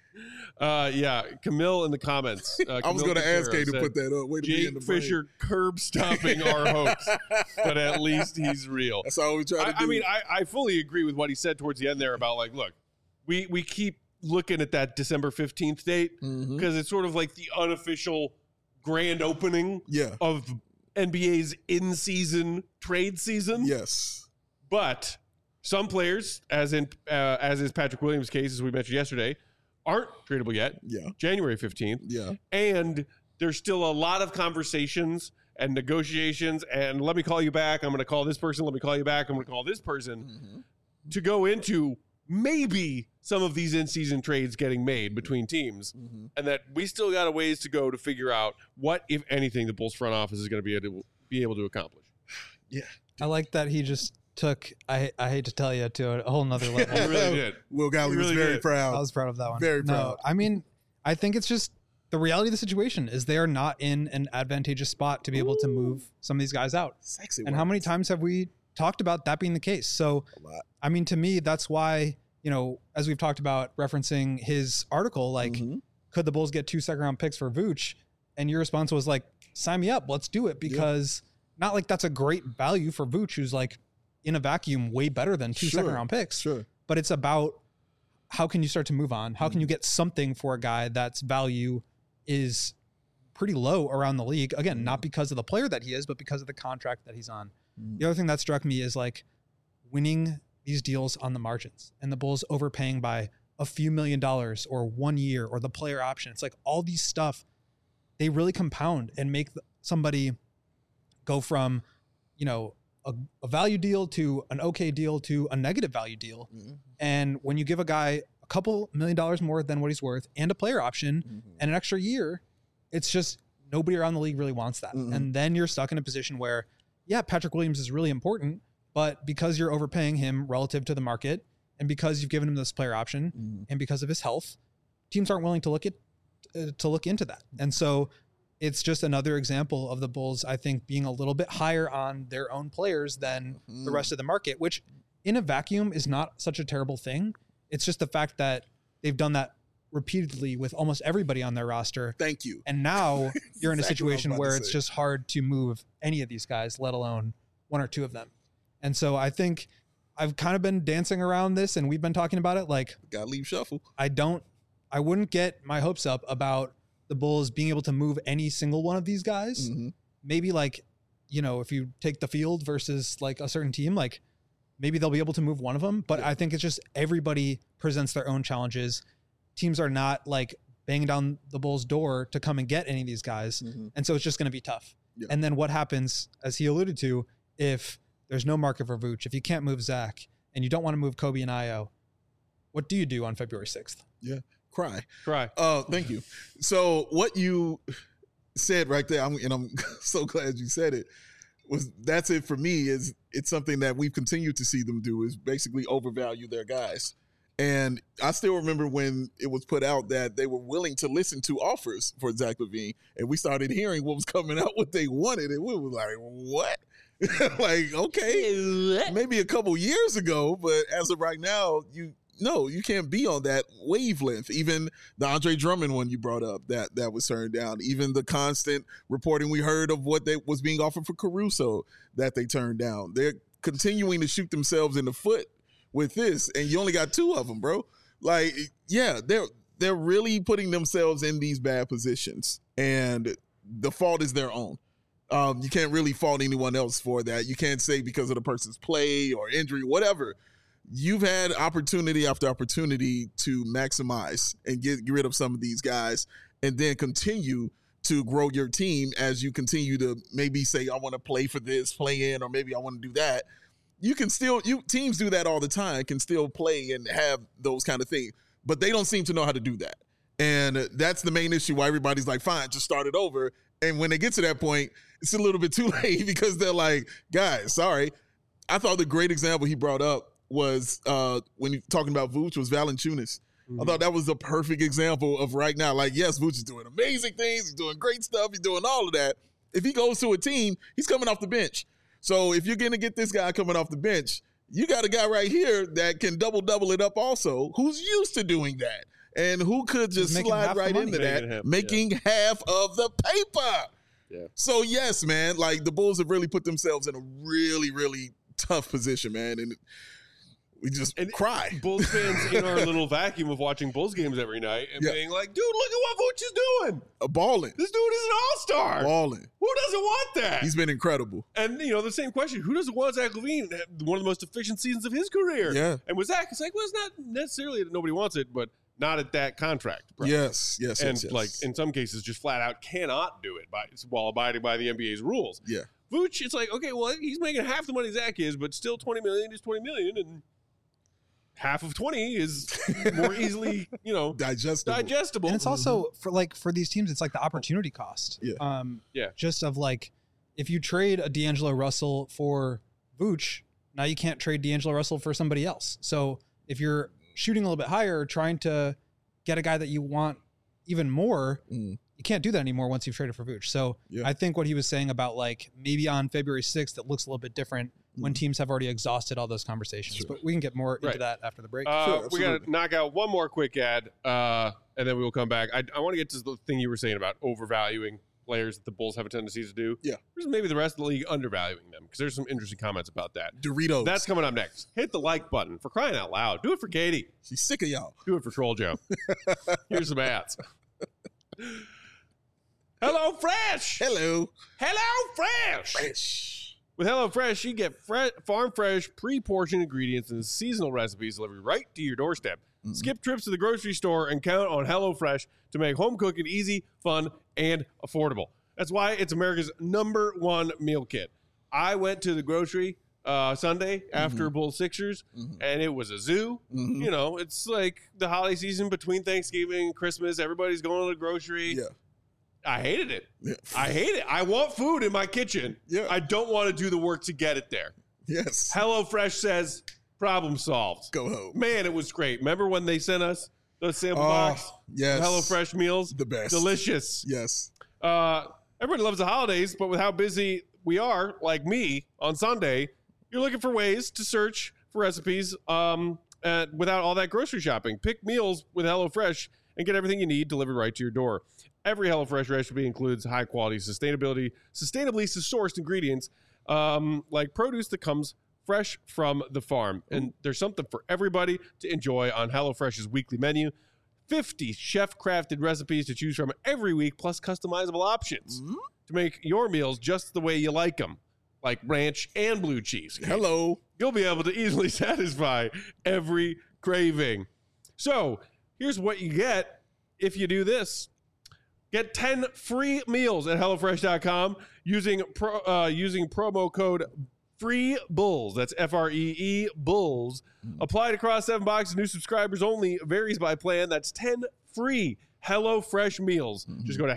S1: Yeah, Camille in the comments.
S2: I was going to ask Kay to put that up. Way to be in the brain.
S1: Jake Fisher curb stomping our hopes, but at least he's real.
S2: That's all we try to do.
S1: I mean, I fully agree with what he said towards the end there about, like, look, we keep looking at that December 15th date because it's sort of like the unofficial grand opening of NBA's in-season trade season.
S2: Yes.
S1: But some players, as is Patrick Williams' case, as we mentioned yesterday, aren't tradable yet.
S2: Yeah.
S1: January 15th.
S2: Yeah.
S1: And there's still a lot of conversations and negotiations and let me call you back. I'm going to call this person. Let me call you back. I'm going to call this person to go into maybe some of these in-season trades getting made between teams and that we still got a ways to go to figure out what, if anything, the Bulls front office is going to be able to accomplish.
S2: Yeah.
S4: I like that he just took, I hate to tell you, to a whole nother level.
S1: He really did.
S2: Will Gottlieb was very proud.
S4: I was proud of that one.
S2: Very proud.
S4: No, I mean, I think it's just the reality of the situation is they are not in an advantageous spot to be able to move some of these guys out.
S2: Sexy.
S4: And how many times have we talked about that being the case? So, I mean, to me, that's why, you know, as we've talked about referencing his article, like, could the Bulls get 2 second-round picks for Vooch? And your response was like, sign me up, let's do it. Because not like that's a great value for Vooch, who's like in a vacuum way better than 2 second-round picks.
S2: Sure.
S4: But it's about how can you start to move on? How can you get something for a guy that's value is pretty low around the league? Again, not because of the player that he is, but because of the contract that he's on. The other thing that struck me is like winning these deals on the margins and the Bulls overpaying by a few $1 million or 1 year or the player option. It's like all these stuff, they really compound and make somebody go from, you know, a value deal to an okay deal to a negative value deal. And when you give a guy a couple $1 million more than what he's worth and a player option and an extra year, it's just nobody around the league really wants that. And then you're stuck in a position where, yeah, Patrick Williams is really important, but because you're overpaying him relative to the market and because you've given him this player option and because of his health, teams aren't willing to look into that. And so it's just another example of the Bulls, I think, being a little bit higher on their own players than the rest of the market, which in a vacuum is not such a terrible thing. It's just the fact that they've done that repeatedly with almost everybody on their roster.
S2: Thank you.
S4: And now you're in a situation where it's just hard to move any of these guys, let alone 1 or 2 of them. And so I think I've kind of been dancing around this and we've been talking about it. Like,
S2: Gotta leave shuffle.
S4: I wouldn't get my hopes up about the Bulls being able to move any single one of these guys.
S2: Mm-hmm.
S4: Maybe like, if you take the field versus like a certain team, like maybe they'll be able to move one of them. But I think it's just everybody presents their own challenges. Teams are not like banging down the Bulls' door to come and get any of these guys.
S2: Mm-hmm.
S4: And so it's just going to be tough.
S2: Yeah.
S4: And then what happens, as he alluded to, if there's no market for Vooch, if you can't move Zach and you don't want to move Kobe and Io, what do you do on February 6th?
S2: Yeah. Cry.
S1: Thank
S2: you. So what you said right there, I'm so glad you said it, that's it for me. It's something that we've continued to see them do, is basically overvalue their guys. And I still remember when it was put out that they were willing to listen to offers for Zach LaVine, and we started hearing what was coming out, what they wanted, and we were like, what? Like, okay, maybe a couple years ago, but as of right now, you can't be on that wavelength. Even the Andre Drummond one you brought up, that was turned down. Even the constant reporting we heard of what was being offered for Caruso that they turned down. They're continuing to shoot themselves in the foot with this, and you only got 2 of them, bro. Like, yeah, they're really putting themselves in these bad positions, and the fault is their own. You can't really fault anyone else for that. You can't say because of the person's play or injury, whatever. You've had opportunity after opportunity to maximize and get rid of some of these guys, and then continue to grow your team as you continue to maybe say, I want to play for this, play in, or maybe I want to do that. You can still, teams do that all the time, can still play and have those kind of things, but they don't seem to know how to do that. And that's the main issue why everybody's like, fine, just start it over. And when they get to that point, it's a little bit too late because they're like, guys, sorry. I thought the great example he brought up was when you're talking about Vooch was Valanciunas. I thought that was a perfect example of right now. Like, yes, Vooch is doing amazing things. He's doing great stuff. He's doing all of that. If he goes to a team, he's coming off the bench. So if you're going to get this guy coming off the bench, you got a guy right here that can double it up also, who's used to doing that and who could just slide right into that, making half of the paper.
S1: Yeah.
S2: So, yes, man, like the Bulls have really put themselves in a really, really tough position, man. And we just cry.
S1: Bulls fans in our little vacuum of watching Bulls games every night and being like, dude, look at what Vooch is doing.
S2: Balling.
S1: This dude is an all-star.
S2: Balling.
S1: Who doesn't want that?
S2: He's been incredible.
S1: And, the same question, who doesn't want Zach LaVine? One of the most efficient seasons of his career.
S2: Yeah.
S1: And with Zach, it's like, well, it's not necessarily that nobody wants it, but not at that contract price.
S2: Yes.
S1: And, like, in some cases, just flat out cannot do it while abiding by the NBA's rules.
S2: Yeah.
S1: Vooch, it's like, okay, well, he's making half the money Zach is, but still $20 million is $20 million, and half of 20 is more easily, digestible.
S4: And it's also for these teams, it's like the opportunity cost.
S2: Yeah.
S4: Just of like, if you trade a D'Angelo Russell for Vooch, now you can't trade D'Angelo Russell for somebody else. So if you're shooting a little bit higher, trying to get a guy that you want even more, you can't do that anymore once you've traded for Vooch. So I think what he was saying about like maybe on February 6th, it looks a little bit different when teams have already exhausted all those conversations. Sure. But we can get more into that after the break.
S1: We got to knock out one more quick ad, and then we will come back. I want to get to the thing you were saying about overvaluing players that the Bulls have a tendency to do.
S2: Yeah.
S1: There's maybe the rest of the league undervaluing them, because there's some interesting comments about that.
S2: Doritos.
S1: That's coming up next. Hit the like button, for crying out loud. Do it for Katie.
S2: She's sick of y'all.
S1: Do it for Troll Joe. Here's some ads. Hello Fresh.
S2: Hello
S1: Fresh.
S2: Fresh.
S1: With HelloFresh, you get farm fresh, pre-portioned ingredients and seasonal recipes delivered right to your doorstep. Skip trips to the grocery store and count on HelloFresh to make home cooking easy, fun, and affordable. That's why it's America's #1 meal kit. I went to the grocery Sunday after Bulls Sixers, and it was a zoo. It's like the holiday season between Thanksgiving and Christmas. Everybody's going to the grocery.
S2: Yeah.
S1: I hated it. Yeah. I hate it. I want food in my kitchen.
S2: Yeah.
S1: I don't want to do the work to get it there.
S2: Yes.
S1: HelloFresh says, problem solved.
S2: Go home.
S1: Man, it was great. Remember when they sent us the sample box?
S2: Yes.
S1: HelloFresh meals?
S2: The best.
S1: Delicious.
S2: Yes.
S1: Everybody loves the holidays, but with how busy we are, like me, on Sunday, you're looking for ways to search for recipes without all that grocery shopping. Pick meals with HelloFresh and get everything you need delivered right to your door. Every HelloFresh recipe includes high-quality, sustainably sourced ingredients like produce that comes fresh from the farm. And there's something for everybody to enjoy on HelloFresh's weekly menu. 50 chef-crafted recipes to choose from every week, plus customizable options to make your meals just the way you like them, like ranch and blue cheese.
S2: Hello.
S1: You'll be able to easily satisfy every craving. So here's what you get if you do this. Get 10 free meals at HelloFresh.com using promo code FREEBULLS. That's FREE Bulls. Applied across 7 boxes. New subscribers only. Varies by plan. That's 10 free HelloFresh meals. Just go to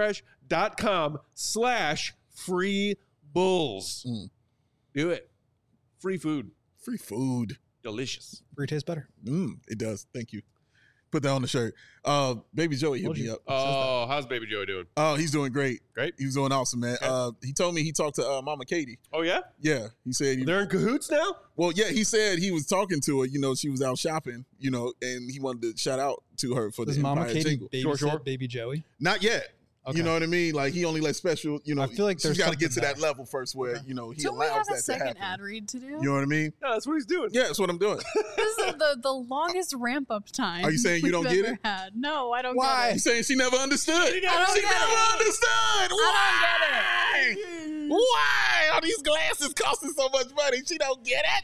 S1: HelloFresh.com/FreeBulls. Do it. Free food.
S2: Free food.
S1: Delicious.
S4: Free tastes better.
S2: It does. Thank you. Put that on the shirt. Baby Joey hit me up.
S1: Oh, how's Baby Joey doing?
S2: Oh, he's doing great.
S1: Great.
S2: He's doing awesome, man.
S1: Okay.
S2: He told me he talked to Mama Katie.
S1: Oh, yeah?
S2: Yeah. He said
S1: They're in cahoots now?
S2: Well, yeah, he said he was talking to her. You know, she was out shopping, you know, and he wanted to shout out to her for
S4: Does
S2: the
S4: Mama
S2: Empire
S4: Katie
S2: jingle.
S4: babysit Baby Joey?
S2: Not yet.
S4: Okay.
S2: You know what I mean? Like, he only let special, you know,
S4: I feel like
S2: she's
S4: there's
S2: got to get to
S4: something
S2: that level first where, you know, he
S3: Don't we
S2: allows
S3: have
S2: that
S3: a
S2: to
S3: second
S2: happen.
S3: ad read to do?
S2: You know what I mean?
S1: No, that's what he's doing.
S2: Yeah, that's what I'm doing.
S3: This is the longest ramp up time.
S2: Are you saying you
S3: we've
S2: don't get
S3: ever
S2: it?
S3: Had. No, I don't
S4: Why?
S3: get
S2: He's saying she never understood. She
S3: don't
S2: never
S3: get it.
S2: understood. Why? Why are these glasses costing so much money? She don't get it.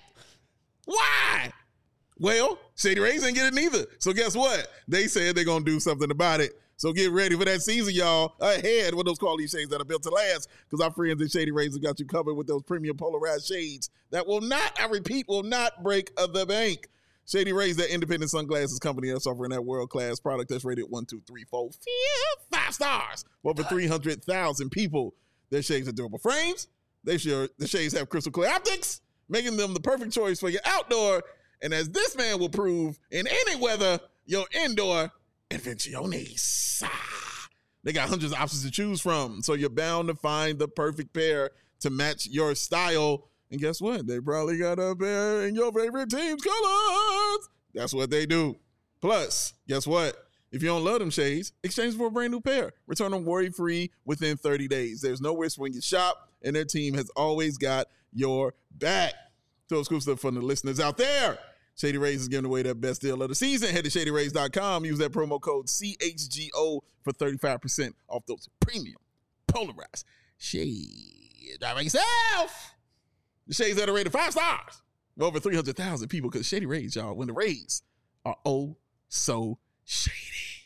S2: Why? Well, Shady Rays ain't get it neither. So guess what? They said they're going to do something about it. So get ready for that season, y'all. Ahead with those quality shades that are built to last, because our friends at Shady Rays have got you covered with those premium polarized shades that will not, I repeat, will not break the bank. Shady Rays, that independent sunglasses company that's offering that world-class product that's rated 1, 2, 3, 4, 5 stars. Over 300,000 people. Their shades are durable frames. The shades have crystal clear optics, making them the perfect choice for your outdoor, and as this man will prove, in any weather, your indoor adventures. They got hundreds of options to choose from, so you're bound to find the perfect pair to match your style. And guess what? They probably got a pair in your favorite team's colors. That's what they do. Plus, guess what? If you don't love them shades, exchange for a brand new pair. Return them worry-free within 30 days. There's no risk when you shop, and their team has always got your back. So exclusive from the listeners out there. Shady Rays is giving away their best deal of the season. Head to ShadyRays.com. Use that promo code CHGO for 35% off those premium polarized shades. Drive by yourself. The shades that are rated 5 stars. Over 300,000 people, because Shady Rays, y'all, when the Rays are oh so shady.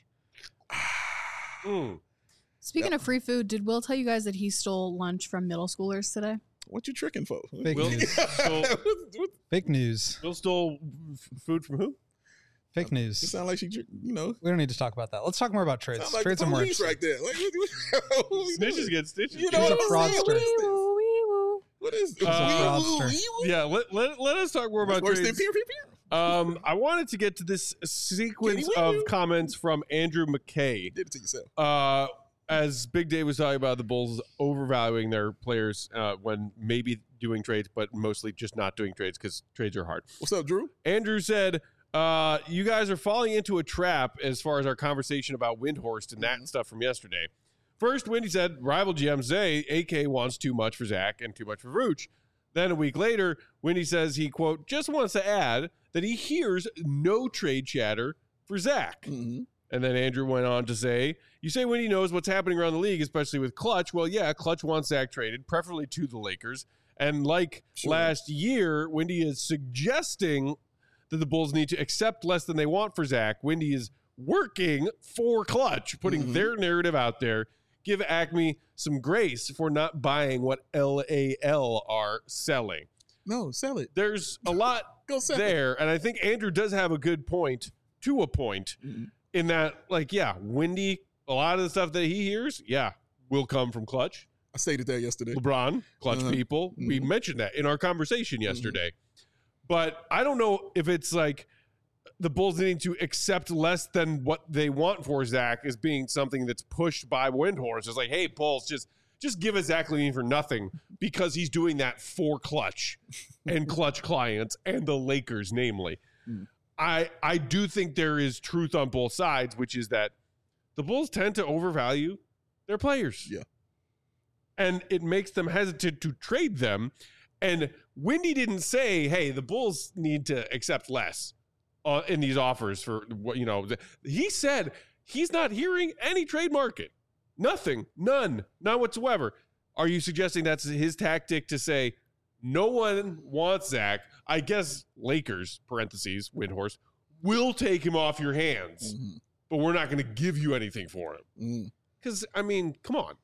S3: Speaking of free food, did Will tell you guys that he stole lunch from middle schoolers today?
S2: What you tricking for?
S4: Fake
S1: Will
S4: news.
S1: stole,
S4: Fake news.
S1: Will stole food from who?
S4: Fake
S2: It
S4: news.
S2: sounds like she, you know.
S4: We don't need to talk about that. Let's talk more about trades.
S2: Sound like
S4: Trades
S2: the
S4: are more
S2: police
S4: interesting.
S2: right there. Like,
S1: Snitches get stitches.
S2: You know
S4: He's a
S2: what I'm saying?
S4: fraudster.
S2: What is this?
S3: Wee-woo, wee-woo.
S2: What is
S4: He's a fraudster.
S1: Yeah, let us talk more about
S2: Worse than
S1: trades.
S2: peer, peer, peer.
S1: I wanted to get to this sequence
S2: Kitty
S1: of
S2: wee-woo.
S1: comments from Andrew McKay.
S2: Did it to yourself.
S1: As Big Dave was talking about the Bulls overvaluing their players when maybe doing trades, but mostly just not doing trades because trades are hard.
S2: What's up, Drew?
S1: Andrew said, you guys are falling into a trap as far as our conversation about Windhorst and that stuff from yesterday. First, Windy said, rival GMs say AK wants too much for Zach and too much for Vooch. Then a week later, Windy says he, quote, just wants to add that he hears no trade chatter for Zach.
S2: Mm-hmm.
S1: And then Andrew went on to say, you say Windy knows what's happening around the league, especially with Clutch. Well, yeah, Clutch wants Zach traded, preferably to the Lakers. And like last year, Windy is suggesting that the Bulls need to accept less than they want for Zach. Windy is working for Clutch, putting their narrative out there. Give Acme some grace for not buying what LAL are selling.
S2: No, sell it.
S1: There's a lot
S2: Go sell it.
S1: there, and I think Andrew does have a good point to a point in that, like, yeah, Windy, a lot of the stuff that he hears, yeah, will come from Clutch.
S2: I stated that yesterday.
S1: LeBron, Clutch people. We mentioned that in our conversation yesterday. But I don't know if it's like the Bulls needing to accept less than what they want for Zach as being something that's pushed by Windhorst. It's like, hey, Bulls, just give us Zach LaVine for nothing because he's doing that for Clutch and Clutch clients and the Lakers, namely. I do think there is truth on both sides, which is that the Bulls tend to overvalue their players.
S2: Yeah.
S1: And it makes them hesitant to trade them. And Windy didn't say, hey, the Bulls need to accept less in these offers for what, he said he's not hearing any trade market. Nothing. None whatsoever. Are you suggesting that's his tactic to say no one wants Zach? I guess Lakers, parentheses, Windhorse, will take him off your hands, but we're not going to give you anything for him. Because, come on.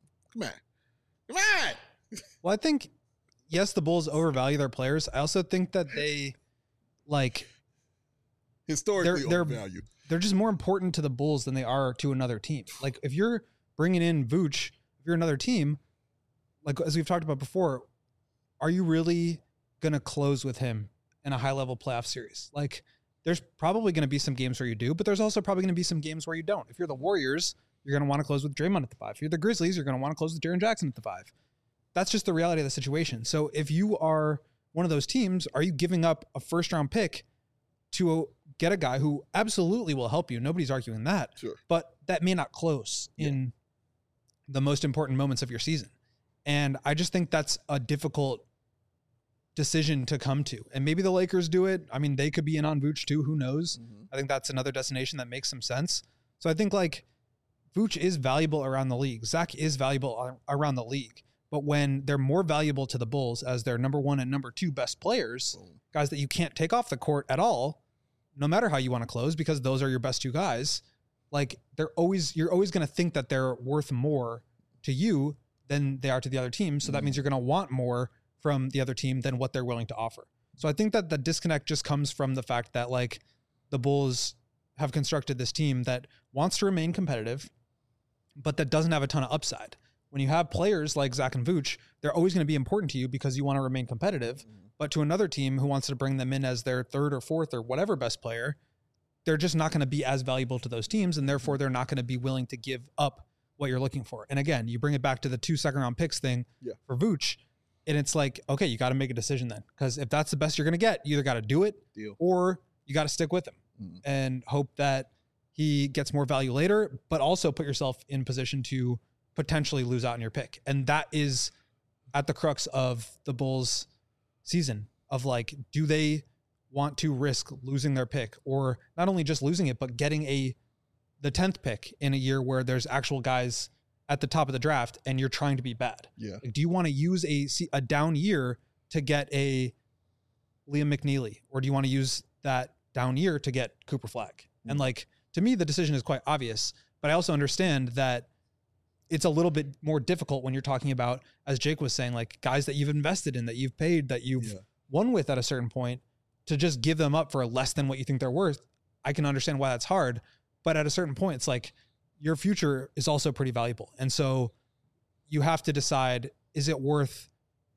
S4: Well, I think, yes, the Bulls overvalue their players. I also think that they,
S2: historically overvalued.
S4: They're just more important to the Bulls than they are to another team. Like, if you're bringing in Vooch, if you're another team, like as we've talked about before, are you really going to close with him in a high-level playoff series? Like, there's probably going to be some games where you do, but there's also probably going to be some games where you don't. If you're the Warriors, you're going to want to close with Draymond at the 5. If you're the Grizzlies, you're going to want to close with Jaren Jackson at the 5. That's just the reality of the situation. So if you are one of those teams, are you giving up a first-round pick to get a guy who absolutely will help you? Nobody's arguing that.
S2: Sure.
S4: But that may not close in the most important moments of your season. And I just think that's a difficult decision to come to. And maybe the Lakers do it. I mean, they could be in on Vooch too. Who knows? I think that's another destination that makes some sense. So I think Vooch is valuable around the league. Zach is valuable around the league. But when they're more valuable to the Bulls as their number 1 and number 2 best players, guys that you can't take off the court at all, no matter how you want to close, because those are your best 2 guys, you're always going to think that they're worth more to you than they are to the other team. So that means you're going to want more from the other team than what they're willing to offer. So I think that the disconnect just comes from the fact that the Bulls have constructed this team that wants to remain competitive, but that doesn't have a ton of upside. When you have players like Zach and Vooch, they're always going to be important to you because you want to remain competitive. But to another team who wants to bring them in as their 3rd or 4th or whatever best player, they're just not going to be as valuable to those teams, and therefore they're not going to be willing to give up what you're looking for. And again, you bring it back to the 2 second-round picks thing for Vooch, and it's okay, you got to make a decision then. Because if that's the best you're going to get, you either got to do it or you got to stick with him and hope that he gets more value later, but also put yourself in position to potentially lose out on your pick. And that is at the crux of the Bulls season of do they want to risk losing their pick, or not only just losing it, but getting the 10th pick in a year where there's actual guys at the top of the draft and you're trying to be bad. Do you want to use a down year to get a Liam McNeely, or do you want to use that down year to get Cooper Flagg? And to me, the decision is quite obvious, but I also understand that it's a little bit more difficult when you're talking about, as Jake was saying, guys that you've invested in, that you've paid, that you've won with at a certain point, to just give them up for less than what you think they're worth. I can understand why that's hard, but at a certain point, it's your future is also pretty valuable. And so you have to decide, is it worth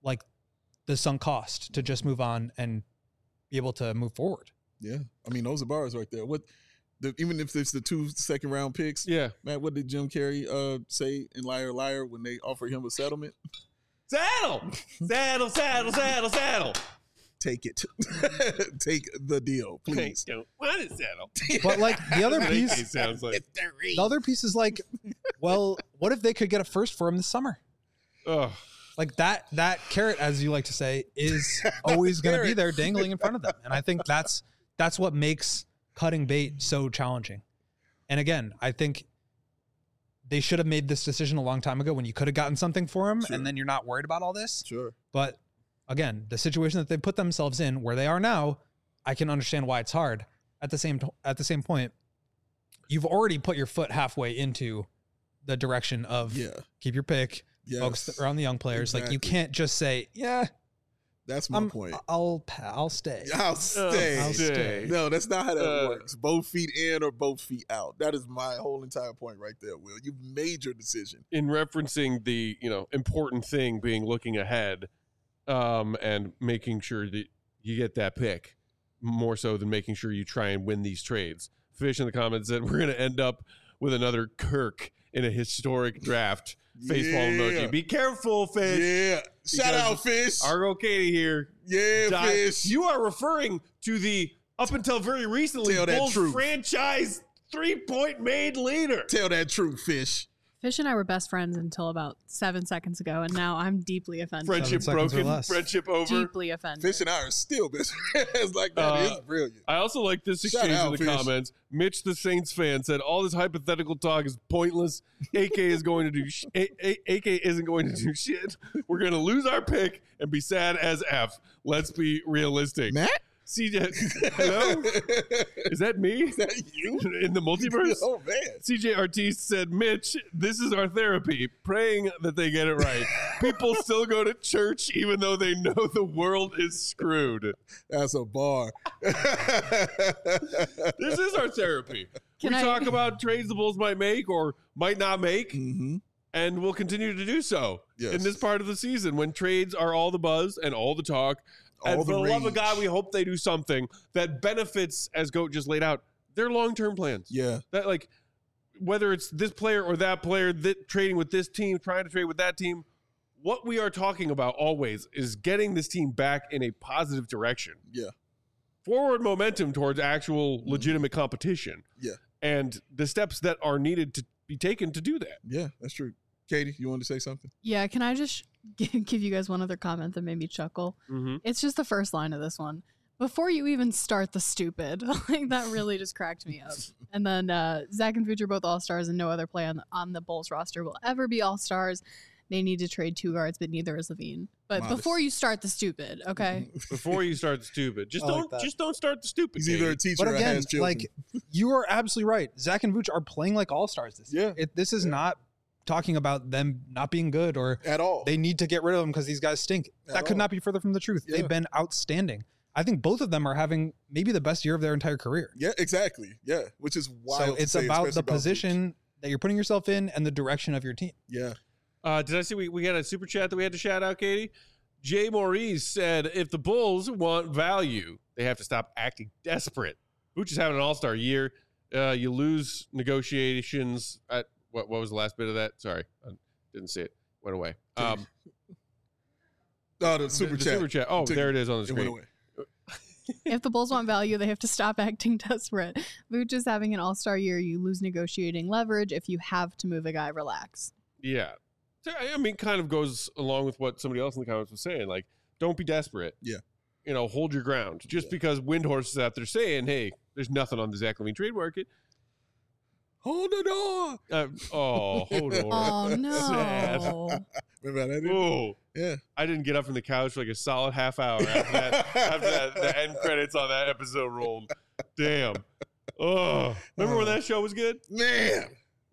S4: the sunk cost to just move on and be able to move forward?
S2: Yeah. Those are bars right there. Even if it's the 2 second-round picks, Matt, what did Jim Carrey say in Liar Liar when they offered him a settlement?
S1: Saddle! Saddle!
S2: Take it. Take the deal, please.
S1: Don't want to settle.
S4: But the other piece
S1: sounds like
S4: the other piece is well, what if they could get a first for him this summer?
S1: Oh.
S4: That carrot, as you like to say, is always going to be there dangling in front of them. And I think that's what makes cutting bait so challenging. And again, I think they should have made this decision a long time ago when you could have gotten something for him, and then you're not worried about all this.
S2: Sure.
S4: But again, the situation that they put themselves in, where they are now, I can understand why it's hard. At the same point, you've already put your foot halfway into the direction of keep your pick, focus around the young players.
S2: Exactly.
S4: You can't just say,
S2: that's my point.
S4: I'll stay.
S2: I'll stay.
S1: stay.
S2: No, that's not how that works. Both feet in or both feet out. That is my whole entire point right there, Will. You've made your decision.
S1: In referencing the important thing being looking ahead, and making sure that you get that pick more so than making sure you try and win these trades. Fish in the comments said we're going to end up with another Kirk in a historic draft. Facepalm emoji. Be careful, Fish.
S2: Yeah. Shout out, Fish.
S1: Argo Katie here.
S2: Yeah, Fish.
S1: You are referring to the, up until very recently, Bulls franchise 3-point made leader.
S2: Tell that truth, Fish.
S3: Fish and I were best friends until about 7 seconds ago, and now I'm deeply offended.
S1: Friendship broken, friendship over.
S3: Deeply offended.
S2: Fish and I are still best friends. Like, that is brilliant.
S1: I also like this exchange in the comments. Mitch, the Saints fan, said all this hypothetical talk is pointless. AK is going to do. AK isn't going to do shit. We're going to lose our pick and be sad as F. Let's be realistic.
S2: Matt?
S1: CJ, hello? Is that me?
S2: Is that you?
S1: In the multiverse?
S2: Oh, man.
S1: CJ Artiste said, Mitch, this is our therapy, praying that they get it right. People still go to church even though they know the world is screwed.
S2: That's a bar.
S1: This is our therapy. We talk about trades the Bulls might make or might not make, and we'll continue to do so in this part of the season when trades are all the buzz and all the talk. And for the love of God, we hope they do something that benefits, as Goat just laid out, their long-term plans.
S2: Yeah.
S1: That, like, whether it's this player or that player, trading with this team, trying to trade with that team, what we are talking about always is getting this team back in a positive direction.
S2: Yeah.
S1: Forward momentum towards actual legitimate competition.
S2: Yeah.
S1: And the steps that are needed to be taken to do that.
S2: Yeah, that's true. Katie, you want to say something?
S3: Yeah, can I just give you guys one other comment that made me chuckle? It's just the first line of this one. Before you even start the stupid. Like, that really just cracked me up. And then Zach and Vooch are both all-stars, and no other player on the Bulls roster will ever be all-stars. They need to trade 2 guards, but neither is Levine. But before you start the stupid, okay?
S1: Before you start the stupid. Just don't start the stupid.
S2: He's either a teacher or has children.
S4: Like, you are absolutely right. Zach and Vooch are playing like all-stars this year. This is not talking about them not being good or
S2: at all.
S4: They need to get rid of them because these guys stink. That could not be further from the truth. They've been outstanding. I think both of them are having maybe the best year of their entire career.
S2: Yeah, exactly. Yeah, which is wild.
S4: So it's about the position that you're putting yourself in and the direction of your team.
S2: Yeah.
S1: Did I see we got a super chat that we had to shout out, Katie? Jay Maurice said, if the Bulls want value, they have to stop acting desperate. Vooch is having an all-star year. You lose negotiations at what was the last bit of that? Sorry, I didn't see it. Went away.
S2: The super chat.
S1: Super chat. Oh, there it is on the screen.
S2: It went away.
S3: If the Bulls want value, they have to stop acting desperate. Vooch is having an all-star year. You lose negotiating leverage. If you have to move a guy, relax.
S1: Yeah. I mean, kind of goes along with what somebody else in the comments was saying. Like, don't be desperate.
S2: Yeah.
S1: You know, hold your ground. Just because Windhorse is out there saying, hey, there's nothing on the Zach Levine trade market.
S2: Hold the door.
S1: Hold on.
S3: Oh, no.
S1: Sad.
S2: Remember that?
S1: Oh,
S2: yeah.
S1: I didn't get up from the couch for like a solid half hour after the end credits on that episode rolled. Damn. Oh, remember when that show was good?
S2: Man.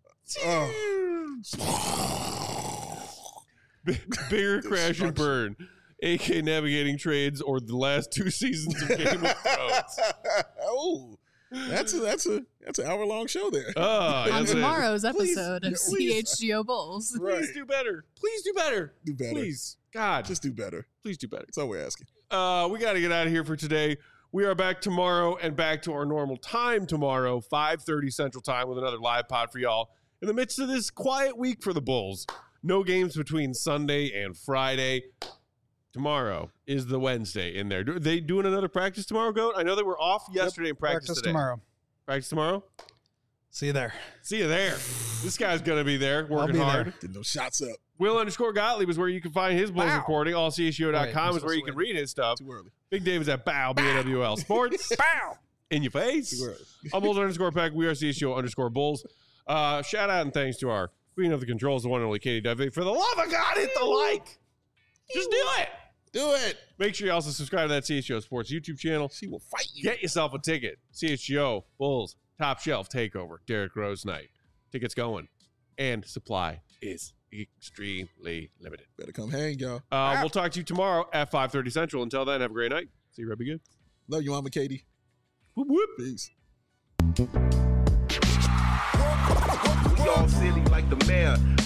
S1: Bigger crash and burn. AK navigating trades or the last 2 seasons of Game of Thrones.
S2: Oh. That's an hour-long show there.
S3: On tomorrow's episode of CHGO Bulls.
S1: Please do better. Please do better.
S2: Do better.
S1: Please. God.
S2: Just do better.
S1: Please do better.
S2: That's all we're asking.
S1: We got to get out of here for today. We are back tomorrow and back to our normal time tomorrow, 5:30 Central Time, with another live pod for y'all in the midst of this quiet week for the Bulls. No games between Sunday and Friday. Tomorrow is the Wednesday in there. Are they doing another practice tomorrow, Goat? I know they were off yesterday and practice today.
S4: Tomorrow.
S1: Practice tomorrow?
S4: See you there.
S1: See you there. This guy's going to be there working hard.
S2: Getting those shots up.
S1: Will_Gottlieb is where you can find his Bulls reporting. AllCHGO.com is where you can read his stuff.
S2: Too early.
S1: Big Dave is at BAW, BAWL Sports. Bow. In your face. I'm Bulls_Peck. We are CHGO_Bulls. Shout out and thanks to our queen of the controls, the one and only Katie Duvey. For the love of God, hit the like. Just do it.
S2: Do it.
S1: Make sure you also subscribe to that CHGO Sports YouTube channel.
S2: She will fight you.
S1: Get yourself a ticket. CHGO Bulls Top Shelf Takeover. Derrick Rose Night. Tickets going. And supply is extremely limited.
S2: Better come hang, y'all.
S1: We'll talk to you tomorrow at 5:30 Central. Until then, have a great night. See you, Red. Be good.
S2: Love you, Mama Katie.
S1: Whoop, whoop.
S2: Peace.
S6: We all silly like the mayor.